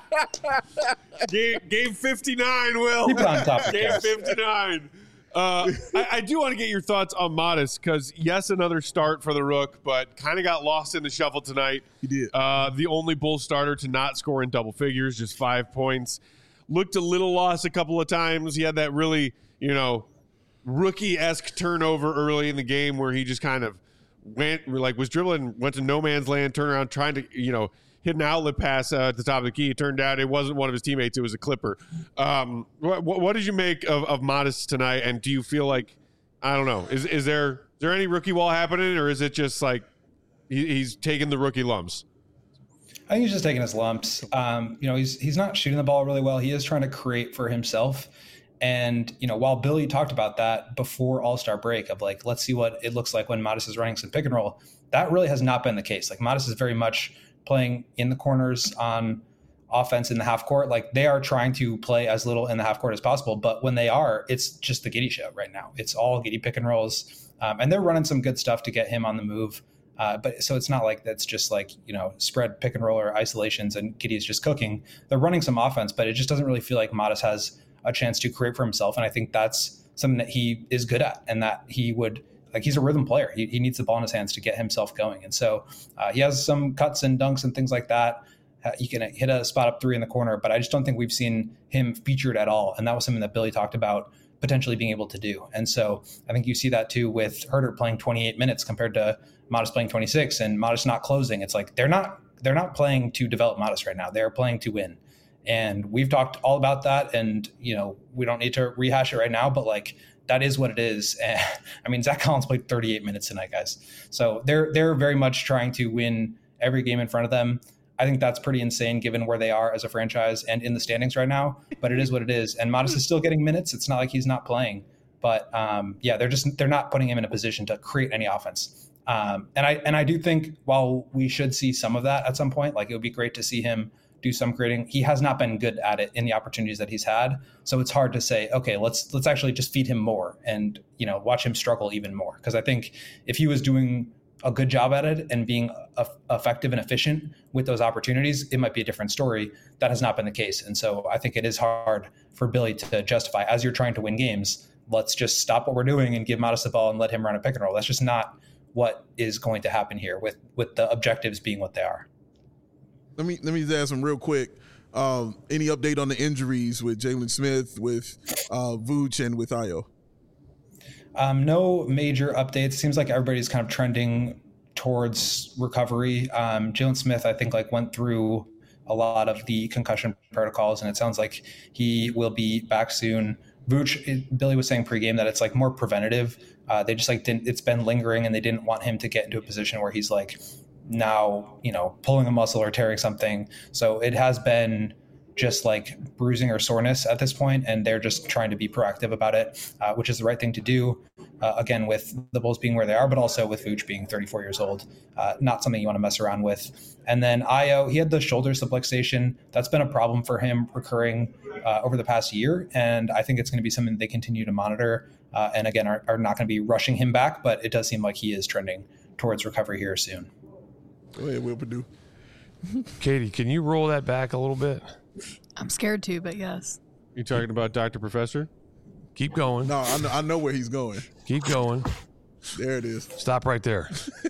Game, game fifty-nine, Will. Keep it on topic. Game fifty-nine. Uh, I, I do want to get your thoughts on Modis because, yes, another start for the Rook, but kind of got lost in the shuffle tonight. He did. Uh, the only Bulls starter to not score in double figures, just five points. Looked a little lost a couple of times. He had that really, you know, rookie-esque turnover early in the game where he just kind of went, like was dribbling, went to no man's land, turned around, trying to, you know, hit an outlet pass uh, at the top of the key. It turned out it wasn't one of his teammates. It was a Clipper. Um, what, what did you make of, of Modis tonight? And do you feel like, I don't know, is is there is there any rookie wall happening, or is it just like he, he's taking the rookie lumps? I think he's just taking his lumps. Um, you know, he's he's not shooting the ball really well. He is trying to create for himself. And, you know, while Billy talked about that before All-Star break of like, let's see what it looks like when Modis is running some pick and roll, that really has not been the case. Like Modis is very much playing in the corners on offense in the half court. Like they are trying to play as little in the half court as possible. But when they are, it's just the Giddey show right now. It's all Giddey pick and rolls. Um, and they're running some good stuff to get him on the move. Uh, but so it's not like that's just like, you know, spread pick and roll or isolations and Giddey's just cooking. They're running some offense, but it just doesn't really feel like Modest has a chance to create for himself. And I think that's something that he is good at, and that he would, like, he's a rhythm player. He, he needs the ball in his hands to get himself going. And so uh, he has some cuts and dunks and things like that. Uh, he can hit a spot up three in the corner, but I just don't think we've seen him featured at all. And that was something that Billy talked about potentially being able to do. And so I think you see that too with Huerter playing twenty-eight minutes compared to Modest playing twenty-six, and Modest not closing. It's like they're not they're not playing to develop Modest right now. They're playing to win. And we've talked all about that, and you know, we don't need to rehash it right now, but like that is what it is. And, I mean, Zach Collins played thirty-eight minutes tonight, guys. So they're they're very much trying to win every game in front of them. I think that's pretty insane given where they are as a franchise and in the standings right now, but it is what it is. And Modest is still getting minutes. It's not like he's not playing, but um, yeah, they're just, they're not putting him in a position to create any offense. Um, and I, and I do think while we should see some of that at some point, like it would be great to see him do some creating. He has not been good at it in the opportunities that he's had. So it's hard to say, okay, let's, let's actually just feed him more and, you know, watch him struggle even more. Cause I think if he was doing a good job at it and being a, effective and efficient with those opportunities, it might be a different story. That has not been the case. And so I think it is hard for Billy to justify, as you're trying to win games, let's just stop what we're doing and give Modest the ball and let him run a pick and roll. That's just not what is going to happen here with, with the objectives being what they are. Let me, let me just ask him real quick. Um, any update on the injuries with Jalen Smith, with uh, Vooch, and with Ayo? Um, no major updates. Seems like everybody's kind of trending towards recovery. Um, Jalen Smith, I think, like went through a lot of the concussion protocols, and it sounds like he will be back soon. Vooch, it, Billy was saying pregame that it's like more preventative. Uh, they just like didn't. It's been lingering, and they didn't want him to get into a position where he's like now, you know, pulling a muscle or tearing something. So it has been just like bruising or soreness at this point, and they're just trying to be proactive about it, uh, which is the right thing to do. Uh, again, with the Bulls being where they are, but also with Vooch being thirty-four years old, uh, not something you want to mess around with. And then Ayo, he had the shoulder subluxation. That's been a problem for him recurring uh, over the past year, and I think it's going to be something that they continue to monitor. Uh, and again, are, are not going to be rushing him back, but it does seem like he is trending towards recovery here soon. Go ahead, Will Perdue. Katie, can you roll that back a little bit? I'm scared to, but yes. You talking about Doctor Professor? Keep going. No, I know, I know where he's going. Keep going. There it is. Stop right there.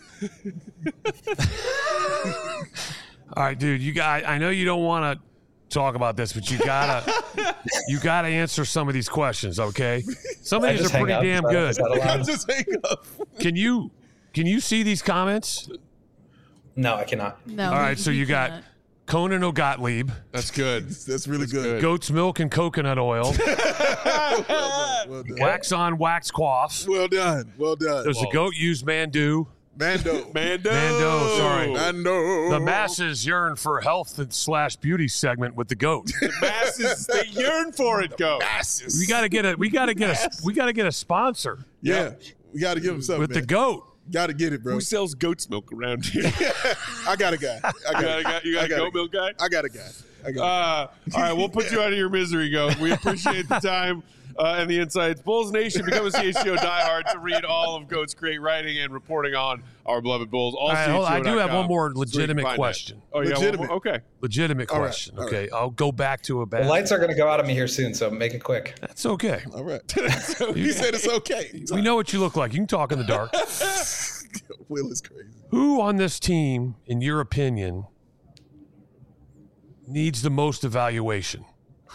All right, dude. You got. I know you don't want to talk about this, but you gotta. you gotta answer some of these questions, okay? Some of I these just are hang pretty up? damn Is that- good. is that allowed? Just hang up. Can you? Can you see these comments? No, I cannot. No. All right, we- so we you got cannot. Conan O'Gottlieb, That's good. That's really good. good. goat's milk and coconut oil, Well done. Well done. wax on, wax quaff. Well done. Well done. Does the goat use Mandu? Mando. Mando. Mando, sorry. Mando. The masses yearn for health and slash beauty segment with the goat. The masses, they yearn for it, go. Masses. We gotta get a we gotta get a we gotta get a sponsor Yeah. We got to give him something. with the goat. Got to get it, bro. Who sells goat's milk around here? I got a guy. I You got, got a guy? You got I a got goat a- milk guy? I got a guy. I got Uh, all right, we'll put you out of your misery, Goat. We appreciate the time uh, and the insights. Bulls Nation, become a C H G O diehard to read all of Goat's great writing and reporting on our beloved Bulls. All All right, hold on. I do have one more legitimate question. Oh, yeah, Legitimate. okay. Legitimate All right, question. all Okay, I'll go back to a The bad. lights are going to go out on me here soon, so make it quick. That's okay. All right. He said it's okay. We know what you look like. You can talk in the dark. Will is crazy. Who on this team, in your opinion, needs the most evaluation?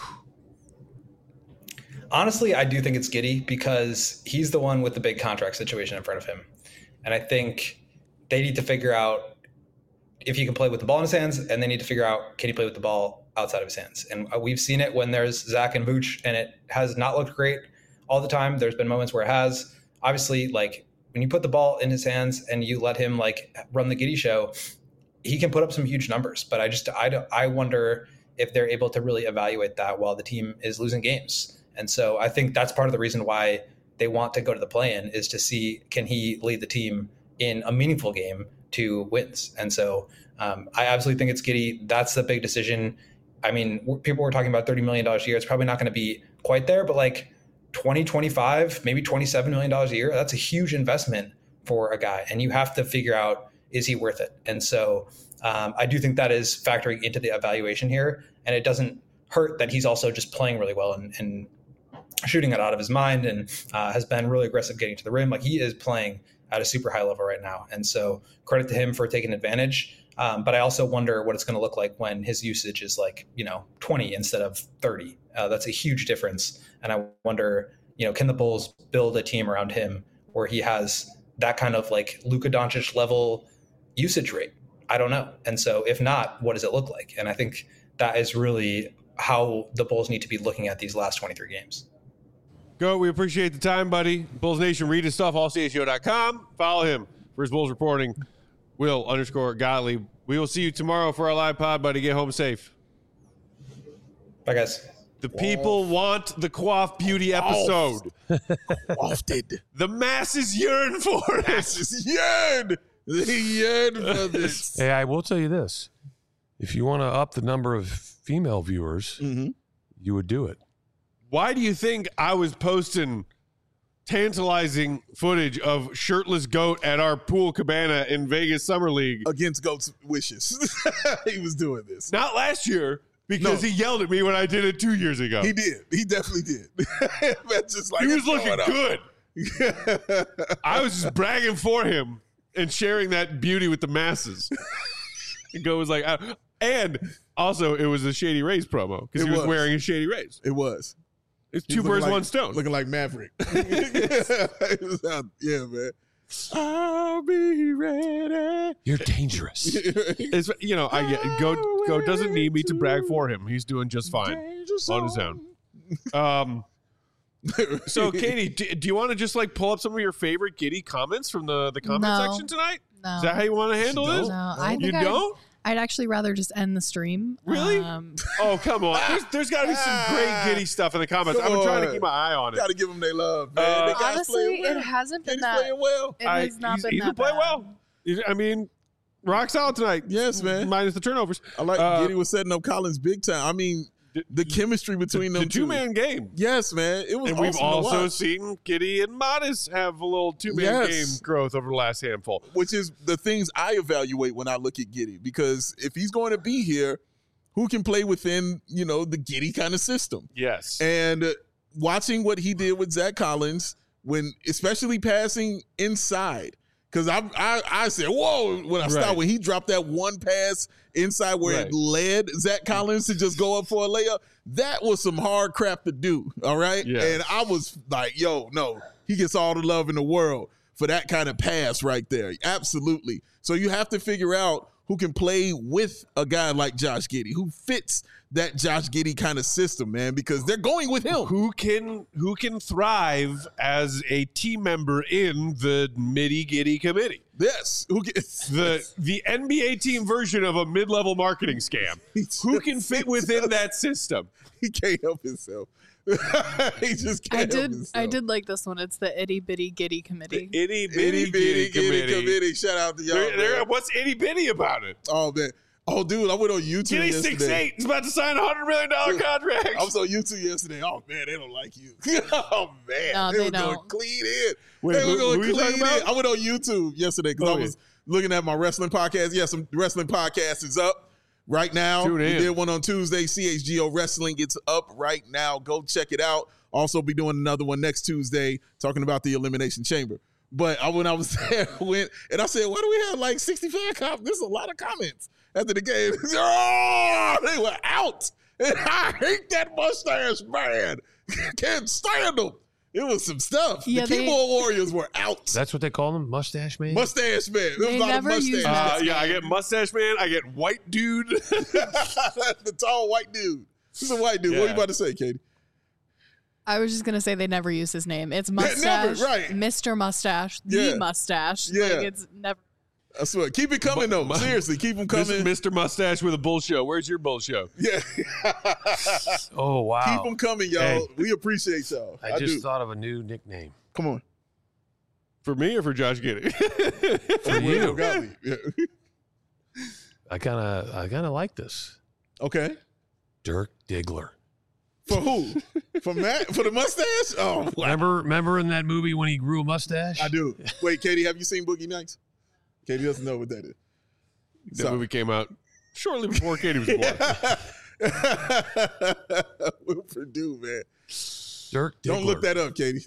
Honestly, I do think it's Giddey because he's the one with the big contract situation in front of him. And I think they need to figure out if he can play with the ball in his hands, and they need to figure out, can he play with the ball outside of his hands? And we've seen it when there's Zach and Vooch, and it has not looked great all the time. There's been moments where it has. Obviously, like when you put the ball in his hands and you let him like run the Giddey show, he can put up some huge numbers. But I just, I, don't- I wonder if they're able to really evaluate that while the team is losing games. And so I think that's part of the reason why they want to go to the play-in is to see, can he lead the team in a meaningful game to wins? And so um, I absolutely think it's Giddey. That's the big decision. I mean, w- people were talking about thirty million dollars a year. It's probably not going to be quite there, but like twenty, twenty-five, maybe twenty-seven million dollars a year, that's a huge investment for a guy. And you have to figure out is he worth it? And so um, I do think that is factoring into the evaluation here. And it doesn't hurt that he's also just playing really well and, and shooting it out of his mind and uh, has been really aggressive getting to the rim. Like he is playing at a super high level right now. And so credit to him for taking advantage. Um, but I also wonder what it's going to look like when his usage is like, you know, twenty instead of thirty. Uh, that's a huge difference. And I wonder, you know, can the Bulls build a team around him where he has that kind of like Luka Doncic level usage rate? I don't know. And so if not, what does it look like? And I think that is really how the Bulls need to be looking at these last twenty-three games. Go. We appreciate the time, buddy. Bulls Nation, read his stuff, all c h o dot com. Follow him for his Bulls reporting. Will underscore Gottlieb. We will see you tomorrow for our live pod, buddy. Get home safe. Bye, guys. The people want the Quaff Beauty episode. Wafted. The masses yearn for it. Masses yearn. They yearn for this. Hey, I will tell you this. If you want to up the number of female viewers, Mm-hmm. you would do it. Why do you think I was posting tantalizing footage of shirtless goat at our pool cabana in Vegas Summer League? Against Goat's wishes. He was doing this. Not last year, because No. he yelled at me when I did it two years ago. He did. He definitely did. That's just like He was it's looking going up. good. I was just bragging for him and sharing that beauty with the masses. And Goat was like, I, and also it was a Shady Rays promo because It he was, was. wearing a Shady Rays. It was. It's He two was looking birds, like- one stone. Looking like Maverick. It was out- yeah, man. I'll be ready. You're dangerous. It's, you know, I get Goat. Goat doesn't need me to brag for him. He's doing just fine on his own. Um. So, Katie, do, do you want to just like pull up some of your favorite Giddy comments from the the comment No. section tonight? No. Is that how you want to handle You this? don't? No, I You think I'd, don't? I'd actually rather just end the stream. Really? Um, Oh, come on. There's, there's got to be some great Giddy stuff in the comments. Come I'm trying to on. keep my eye on it. Got to give them their love, man. Uh, They guys honestly, playing well. it hasn't been He's that. playing well. It I- has not he's- been he that can play bad. well. I mean, rock solid tonight. Yes, man. Minus the turnovers. I like Uh, Giddy was setting up Collins big time. I mean, the chemistry between The them two. two man game. Yes, man. It was And we've awesome to also watch. seen Giddy and Modest have a little two man Yes. game growth over the last handful. Which is the things I evaluate when I look at Giddy. Because if he's going to be here, who can play within, you know, the Giddy kind of system? Yes. And uh, watching what he did with Zach Collins, when especially passing inside, because I, I I said, whoa, when I Right. stopped, when he dropped that one pass inside where Right. it led Zach Collins to just go up for a layup, that was some hard crap to do, all right? Yeah. And I was like, yo, no, he gets all the love in the world for that kind of pass right there. Absolutely. So you have to figure out who can play with a guy like Josh Giddey, who fits that Josh Giddey kind of system, man, because they're going with him. who can who can thrive as a team member in the Midi Giddy committee? Yes. Who gets The the N B A team version of a mid level marketing scam. Who can fit within that system? He can't help himself. He just can't I help did. himself. I did like this one. It's the itty bitty giddy committee. Itty bitty Itty bitty Giddy Giddy committee. committee. Shout out to y'all. They're- they're- man. what's itty bitty about it? Oh man. Oh dude, I went on YouTube Giddy yesterday. six eight. He's about to sign a hundred million dollar contract. I was on YouTube yesterday. Oh man, they don't like you. Oh man, No, they, they were going don't. clean in. Wait, they who- were going who you clean talking about? in. I went on YouTube yesterday because Oh, I was looking at my wrestling podcast. Yeah, some wrestling podcast is up right now. Tune we in. did one on Tuesday. C H G O Wrestling gets up right now. Go check it out. Also be doing another one next Tuesday talking about the Elimination Chamber. But I, when I was there, I went and I said, "Why do we have like sixty-five comments? There's a lot of comments after the game." Oh, they were out. And I hate that mustache man. Can't stand him. It was some stuff. Yeah, the they- keyboard warriors were out. That's what they call them, mustache man. Mustache man. There was They a lot never of use mustache. Uh, that. yeah, I get mustache man. I get white dude. The tall white dude. He's a white dude. What are Yeah. you about to say, Katie? I was just gonna say they never use his name. It's never, mustache, right. Mister Mustache, Yeah. the mustache. Yeah. Like it's never. I swear. Keep it coming, though. Mu- Seriously, keep them This coming. is Mister Mustache with a bull show. Where's your bull show? Yeah. Oh wow! Keep them coming, y'all. Hey. We appreciate y'all. I, I, just do. thought of a new nickname Come on. For me or for Josh Giddy? for you. Gottlieb. Yeah. I kind of, I kind of like this. Okay. Dirk Diggler. For who? For Matt? For the mustache? Oh, wow. Remember, remember in that movie when he grew a mustache? I do. Wait, Katie, have you seen Boogie Nights? Katie doesn't know what that is. That So- movie came out shortly before Katie was born. Will Purdue, man. Dirk Diggler. Don't look that up, Katie.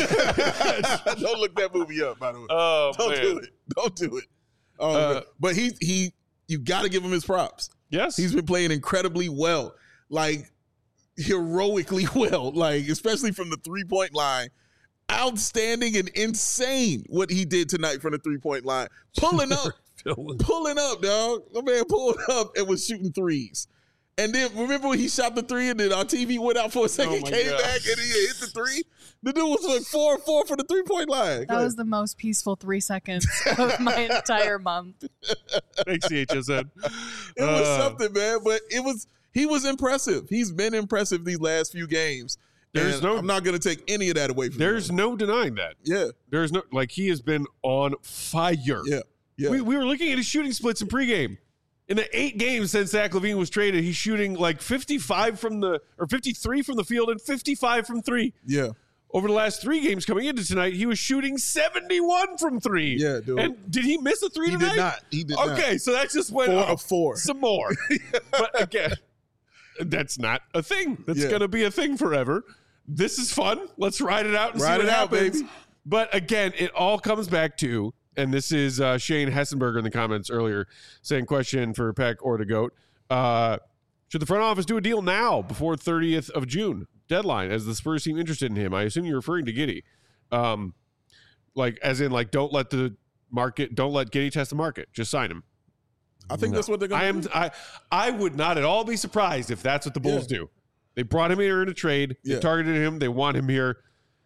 Don't look that movie up, by the way. Oh, Don't man. do it. Don't do it. Oh, Uh, man. But he he you got to give him his props. Yes. He's been playing incredibly well, like heroically well, like especially from the three point line. Outstanding and insane what he did tonight from the three point line, pulling up, Phil- pulling up, dog. The man pulled up and was shooting threes. And then remember when he shot the three and then our T V went out for a second, Oh my came God. back and he hit the three. The dude was like four and four for the three point line. Go That was the most peaceful three seconds of my entire month. Thanks, C H S N. It was Uh, something, man. But it was he was impressive. He's been impressive these last few games. There's And no- I'm not going to take any of that away from There's him. no denying that. Yeah, There's no, like, he has been on fire. yeah, yeah. We, we were looking at his shooting splits in pregame. In the eight games since Zach LaVine was traded, he's shooting like fifty-five from the, or fifty-three from the field and fifty-five from three. yeah. Over the last three games coming into tonight, he was shooting seventy-one from three. Yeah, dude. And did he miss a three He tonight? did not. He did not. Okay, so that just went Four up of four. some more. But again, that's not a thing. That's Yeah. going to be a thing forever. This is fun. Let's ride it out and Ride see what it out, happens. baby. But again, it all comes back to, and this is uh, Shane Hessenberger in the comments earlier saying, question for Peck or the GOAT. Uh, should the front office do a deal now before thirtieth of June deadline as the Spurs seem interested in him? I assume you're referring to Giddey. Um, like, as in, like, don't let the market, don't let Giddey test the market. Just sign him. I think No. that's what they're going I to am. do. I. I would not at all be surprised if that's what the Bulls Yeah. do. They brought him here in a trade. They Yeah. targeted him. They want him here.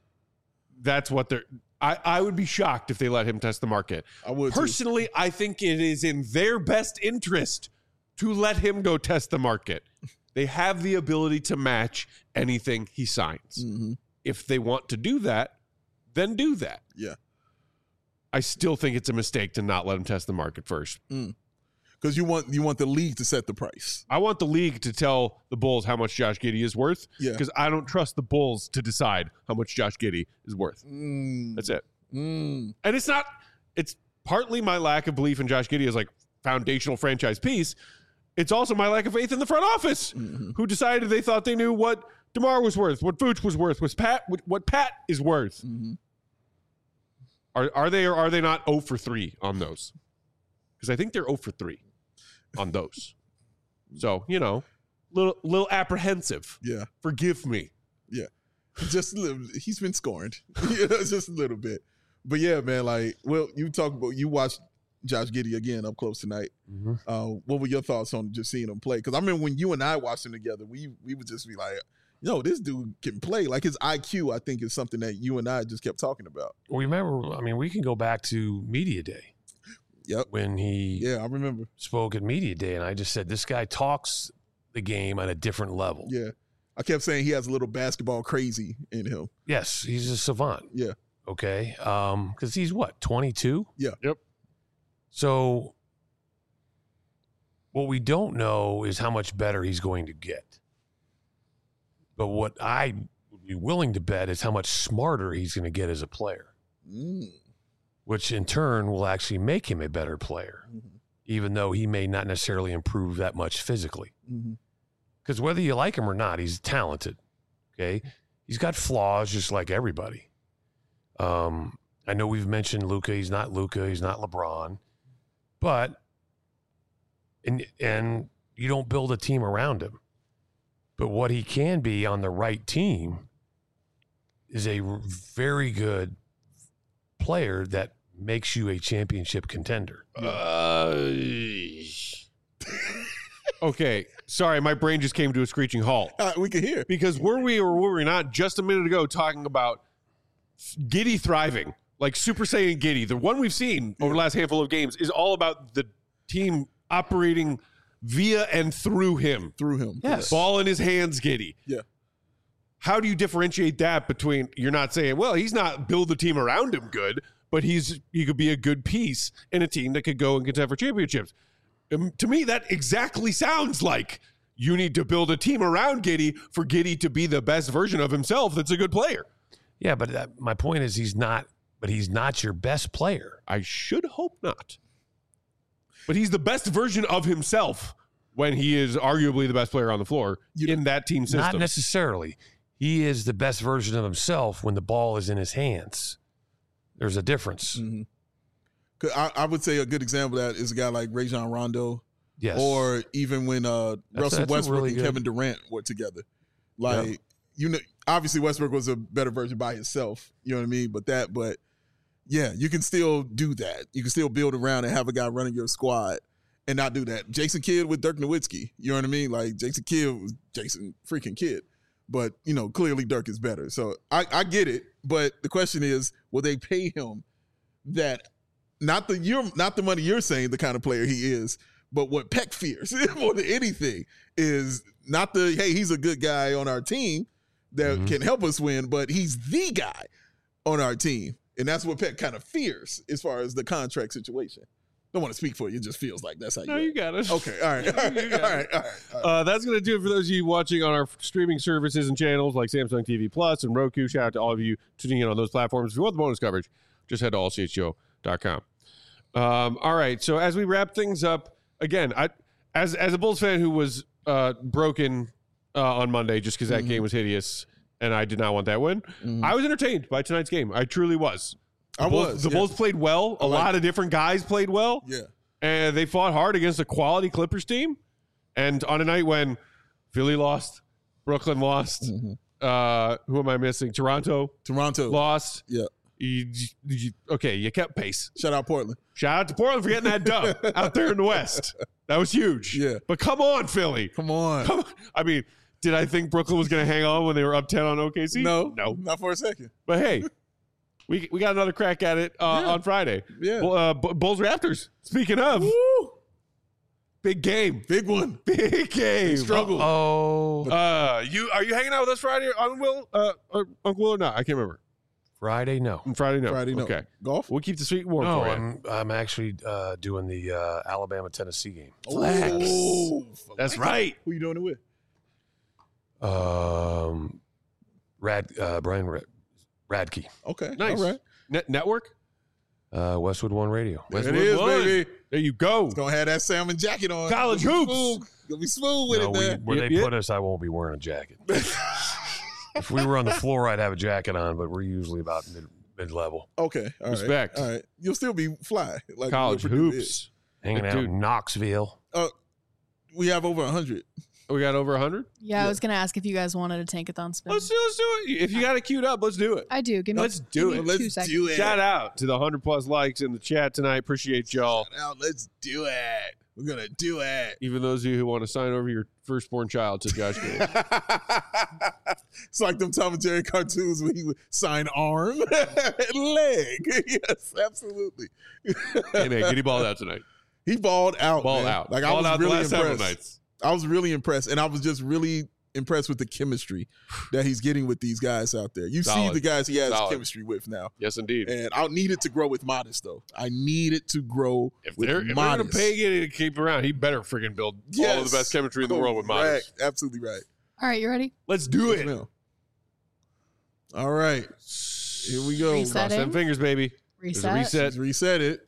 That's what they're. I. I would be shocked if they let him test the market. I would too. Personally, I think it is in their best interest to let him go test the market. They have the ability to match anything he signs. Mhm. If they want to do that, then do that. Yeah. I still think it's a mistake to not let him test the market first. Because you want you want the league to set the price. I want the league to tell the Bulls how much Josh Giddey is worth Yeah. because I don't trust the Bulls to decide how much Josh Giddey is worth. Mm, That's it. mm. And it's not, it's partly my lack of belief in Josh Giddey as like foundational franchise piece. It's also my lack of faith in the front office Mhm. who decided they thought they knew what DeMar was worth, what Vooch was worth, what Pat, what Pat is worth. Mhm. Are, are they or are they not zero for three on those? Because I think they're zero for three on those. So, you know, little little apprehensive. Yeah. Forgive me. Just a little, he's been scorned. You know, just a little bit. But yeah, man, like, well, you talk about you watched Josh Giddey again up close tonight. Mhm. Uh, what were your thoughts on just seeing him play? Because I remember when you and I watched him together, we we would just be like, yo, this dude can play. Like his I Q, I think, is something that you and I just kept talking about. We remember, I mean, we can go back to Media Day Yep. when he Yeah, I remember. spoke at Media Day, and I just said, this guy talks the game on a different level. Yeah. I kept saying he has a little basketball crazy in him. Yes, he's a savant. Yeah. Okay. Um, because he's what, twenty-two? Yeah. Yep. So what we don't know is how much better he's going to get. But what I would be willing to bet is how much smarter he's going to get as a player, Mm. which in turn will actually make him a better player, Mhm. even though he may not necessarily improve that much physically. Mhm. Because whether you like him or not, he's talented. Okay. He's got flaws just like everybody. Um, I know we've mentioned Luka. He's not Luka. He's not LeBron. But, and, and you don't build a team around him. But what he can be on the right team is a very good player that makes you a championship contender. Uh, okay. Sorry, my brain just came to a screeching halt. Uh, we can hear. Because were we or were we not just a minute ago talking about Giddey thriving, like Super Saiyan Giddey? The one we've seen over the last handful of games is all about the team operating via and through him. Through him. Yes. Ball in his hands, Giddey. Yeah. How do you differentiate that between you're not saying, well, he's not build the team around him good, but he's he could be a good piece in a team that could go and contend for championships. Um, to me, that exactly sounds like you need to build a team around Giddey for Giddey to be the best version of himself that's a good player. Yeah, but that, my point is he's not, but he's not your best player. I should hope not. But he's the best version of himself when he is arguably the best player on the floor You- in that team system. Not necessarily. He is the best version of himself when the ball is in his hands. There's a difference. Mhm. 'Cause I, I would say a good example of that is a guy like Rajon Rondo, Yes. or even when uh, Russell that's a Westbrook really and good- Kevin Durant were together. Like you know, obviously Westbrook was a better version by himself. You know what I mean? But that, but yeah, you can still do that. You can still build around and have a guy running your squad and not do that. Jason Kidd with Dirk Nowitzki. You know what I mean? Like Jason Kidd was Jason freaking Kidd. But, you know, clearly Dirk is better. So I, I get it. But the question is, will they pay him that not the you're not the money you're saying the kind of player he is, but what Peck fears more than anything is not the, hey, he's a good guy on our team that Mhm. can help us win, but he's the guy on our team. And that's what Peck kind of fears as far as the contract situation. Don't want to speak for you. It just feels like that's how you No, do it. you got it. Okay, all right, all right, all right, all right. All right. Uh, that's going to do it for those of you watching on our streaming services and channels like Samsung T V Plus and Roku. Shout out to all of you tuning in on those platforms. If you want the bonus coverage, just head to all c h o dot com. Um, all right, so as we wrap things up, again, I as as a Bulls fan who was uh, broken uh, on Monday just because that Mhm. game was hideous and I did not want that win, Mhm. I was entertained by tonight's game. I truly was. The I Bulls, was, The yeah. Bulls played well. A I like lot of different guys played well. Yeah. And they fought hard against a quality Clippers team. And on a night when Philly lost, Brooklyn lost, Mhm. uh, who am I missing? Toronto Toronto. lost. Yeah. You, you, okay, you kept pace. Shout out Portland. Shout out to Portland for getting that dub out there in the West. That was huge. Yeah. But come on, Philly. Come on. Come on. I mean, did I think Brooklyn was going to hang on when they were up ten on O K C? No. No. Not for a second. But hey, we we got another crack at it uh, Yeah. on Friday. Yeah. Well, uh, B- Bulls Raptors. Speaking of, Woo! big game. Big one. Big game. struggle. Oh, Uh, you are you hanging out with us Friday, Uncle Will? Uh, or Uncle Will or not? I can't remember. Friday? No. Friday, no. Friday, no. Okay, Golf? we'll keep the street warm No, for you. I'm, I'm actually uh, doing the uh, Alabama-Tennessee game. Oh, That's right. Who you doing it with? Um, Rad, uh, Brian Rad, Radke, Okay. Nice. All right. Net- network. uh, Westwood One Radio. There Westwood it is, One. baby. There you go. It's going to have that salmon jacket on. College Gonna be hoops. smooth. Gonna be smooth with No, it, we, man. where Yep, they yep. put us, I won't be wearing a jacket. If we were on the floor, I'd have a jacket on, but we're usually about mid, mid-level. Okay. All right. Respect. All right. You'll still be fly. Like College Will Purdue hoops. Hanging out Dude. in Knoxville. is. Uh, we have over one hundred. We got over one hundred. Yeah, Yeah. I was gonna ask if you guys wanted a tankathon spin. Let's do, let's do it. If you got it queued up, let's do it. I do. Give me. Let's do give it. me Let's two seconds. do it. Shout out to the one hundred plus likes in the chat tonight. Appreciate y'all. Shout out. Let's do it. We're going to do it. Even those of you who want to sign over your firstborn child to Josh Green. It's like them Tom and Jerry cartoons where he would sign arm and leg. Yes, absolutely. Hey, man, get he balled out tonight. He balled out. Balled man. out. Like I Balled was out really the last impressed. several nights. I was really impressed, and I was just really impressed with the chemistry that he's getting with these guys out there. You Solid. see the guys he has Solid. chemistry with now, Yes, indeed. and I need it to grow with Modest though. I need it to grow If with they're, if they're Modest. going to pay Giddy to keep around, he better freaking build all of Yes. the best chemistry in the world with Modest. Correct. Absolutely right. All right, you ready? Let's do it. Now. All right, here we go. Reset. Cross them fingers, baby. There's a Reset. reset. Let's reset it.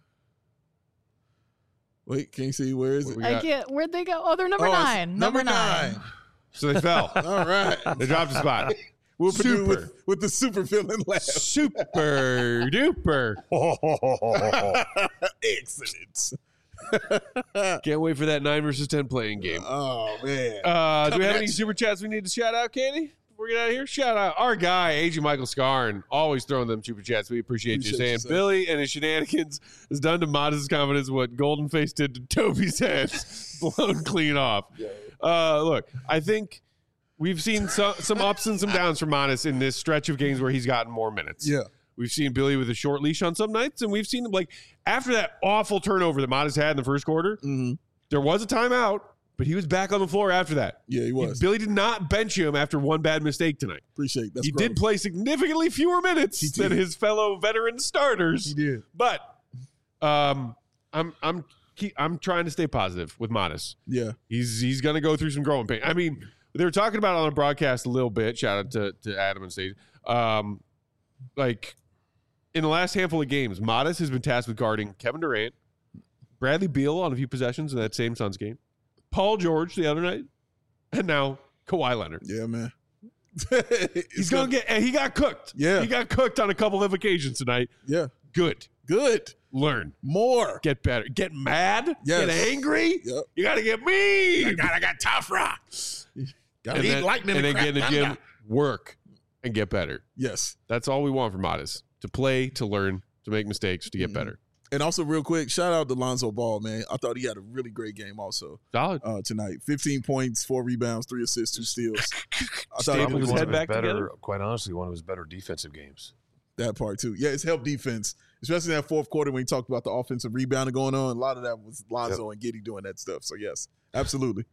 Wait, can you see where is What it? we I got? can't. Where'd they go? Oh, they're number Oh, it's nine. Number nine. So they fell. All right. They dropped a spot. We'll Purdue Super. with, with the super villain laugh. Super duper. Excellent. Can't wait for that nine versus ten playing game. Oh man. Uh, do we Coming have at any you. super chats we need to shout out, Candy? Before we get out of here, shout out our guy, Agent Michael Scarn, always throwing them super chats. We appreciate, Appreciate you saying you, sir. Billy and his shenanigans has done to Modest's confidence what Golden Face did to Toby's head, blown clean off. Uh, look, I think we've seen some, some ups and some downs from Modest in this stretch of games where he's gotten more minutes. Yeah. We've seen Billy with a short leash on some nights, and we've seen him like after that awful turnover that Modest had in the first quarter. Mm-hmm. There was a timeout, but he was back on the floor after that. Yeah, he He- was. Billy did not bench him after one bad mistake tonight. Appreciate that. he did play significantly fewer minutes He than did. his fellow veteran starters. He did. But um, I'm I'm keep, I'm trying to stay positive with Modest. Yeah. He's he's going to go through some growing pain. I mean, they were talking about it on the broadcast a little bit. Shout out to, to Adam and Stage. Um, like in the last handful of games, Modest has been tasked with guarding Kevin Durant, Bradley Beal on a few possessions in that same Suns game. Paul George the other night. And now Kawhi Leonard. Yeah, man. He's going to get – he got cooked. Yeah. He got cooked on a couple of occasions tonight. Yeah. Good. Good. Learn. More. Get better. Get mad. Yes. Get angry. Yep. You got to get mean. I got, I got tough rocks. Got to And eat then, lightning and and then get in the crap gym, thunder. work, and get better. Yes. That's all we want from Modest. To play, to learn, to make mistakes, to get Mhm. better. And also, real quick, shout out to Lonzo Ball, man. I thought he had a really great game also Solid. uh, tonight. fifteen points, four rebounds, three assists, two steals. I thought Stayed he with Probably his was one head of his back better, together. quite honestly, one of his better defensive games. that part too. Yeah, it's helped defense, especially in that fourth quarter when he talked about the offensive rebounding going on. A lot of that was Lonzo and Giddey doing that stuff. So, yes, absolutely.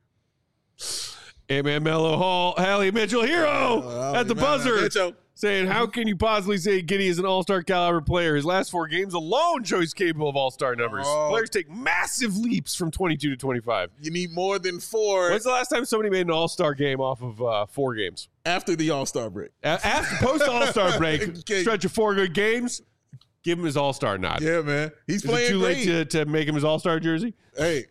Hey, man, Melo Hall, Hallie Mitchell, hero Uh, at the man, buzzer. Mitchell. Saying, how can you possibly say Giddey is an all-star caliber player? His last four games alone show he's capable of all-star numbers. Oh. Players take massive leaps from twenty-two to twenty-five. You need more than four When's the last time somebody made an all-star game off of uh, four games? after the All-Star break. A- After post-all-star break, Okay. stretch of four good games, give him his all-star nod. Yeah, man. He's Is it playing too great. late to, to make him his all-star jersey? Hey,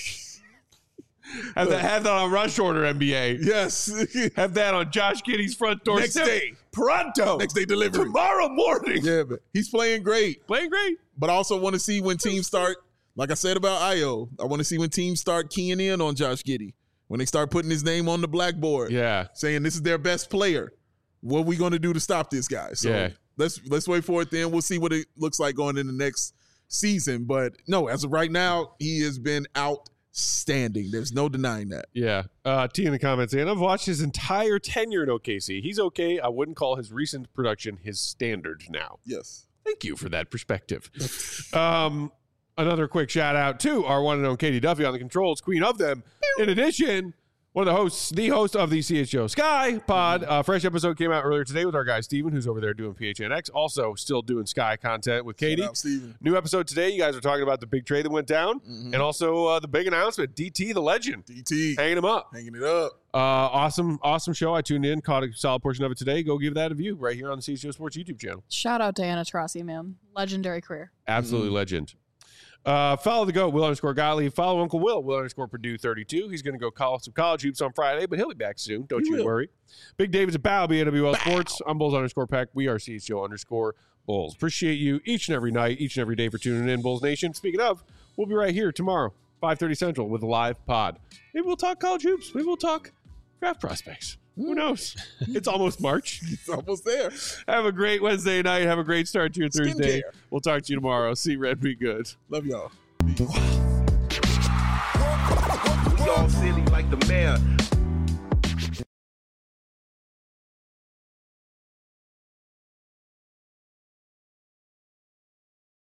Have that, have that on rush order, N B A. yes. Have that on Josh Giddey's front door. Next day. Pronto. Next day delivery. Tomorrow morning. Yeah, but he's playing great. Playing great. But I also want to see when teams start, like I said about Io, I want to see when teams start keying in on Josh Giddey. When they start putting his name on the blackboard, Yeah. saying this is their best player. What are we going to do to stop this guy? So Yeah. let's let's wait for it then. We'll see what it looks like going in the next season. But no, as of right now, he has been outstanding. There's no denying that. Yeah. Uh, T in the comments saying, I've watched his entire tenure in O K C. He's okay. I wouldn't call his recent production his standard now. Yes. Thank you for that perspective. um, another quick shout out to our one and only Katie Duffy on the controls, queen of them. In addition, one of the hosts, the host of the C H O Sky Pod. Uh, fresh episode came out earlier today with our guy Steven, who's over there doing P H N X. Also, still doing Sky content with Katie. Shout out, Steven. New episode today. You guys are talking about the big trade that went down, and also uh, the big announcement. D T, the legend, D T hanging him up. hanging it up. Uh, awesome, awesome show. I tuned in, caught a solid portion of it today. Go give that a view right here on the C H O Sports YouTube channel. Shout out Diana Taurasi, man. Legendary career. Absolutely Mm-hmm. legend. Uh, follow the GOAT, Will underscore Gottlieb. Follow Uncle Will, Will underscore Purdue thirty-two. He's going to go call some college hoops on Friday, but he'll be back soon. Don't He you will. worry. Big David's a bow, B A W L Sports. I'm Bulls underscore Peck. We are C H O underscore Bulls. Appreciate you each and every night, each and every day for tuning in, Bulls Nation. Speaking of, we'll be right here tomorrow, five thirty Central, with a live pod. Maybe we'll talk college hoops. Maybe we'll talk draft prospects. Who knows? It's almost March. It's almost there. Have a great Wednesday night. Have a great start to your Thursday. Skincare. We'll talk to you tomorrow. See Red, be good. Love y'all. We all silly like the mayor.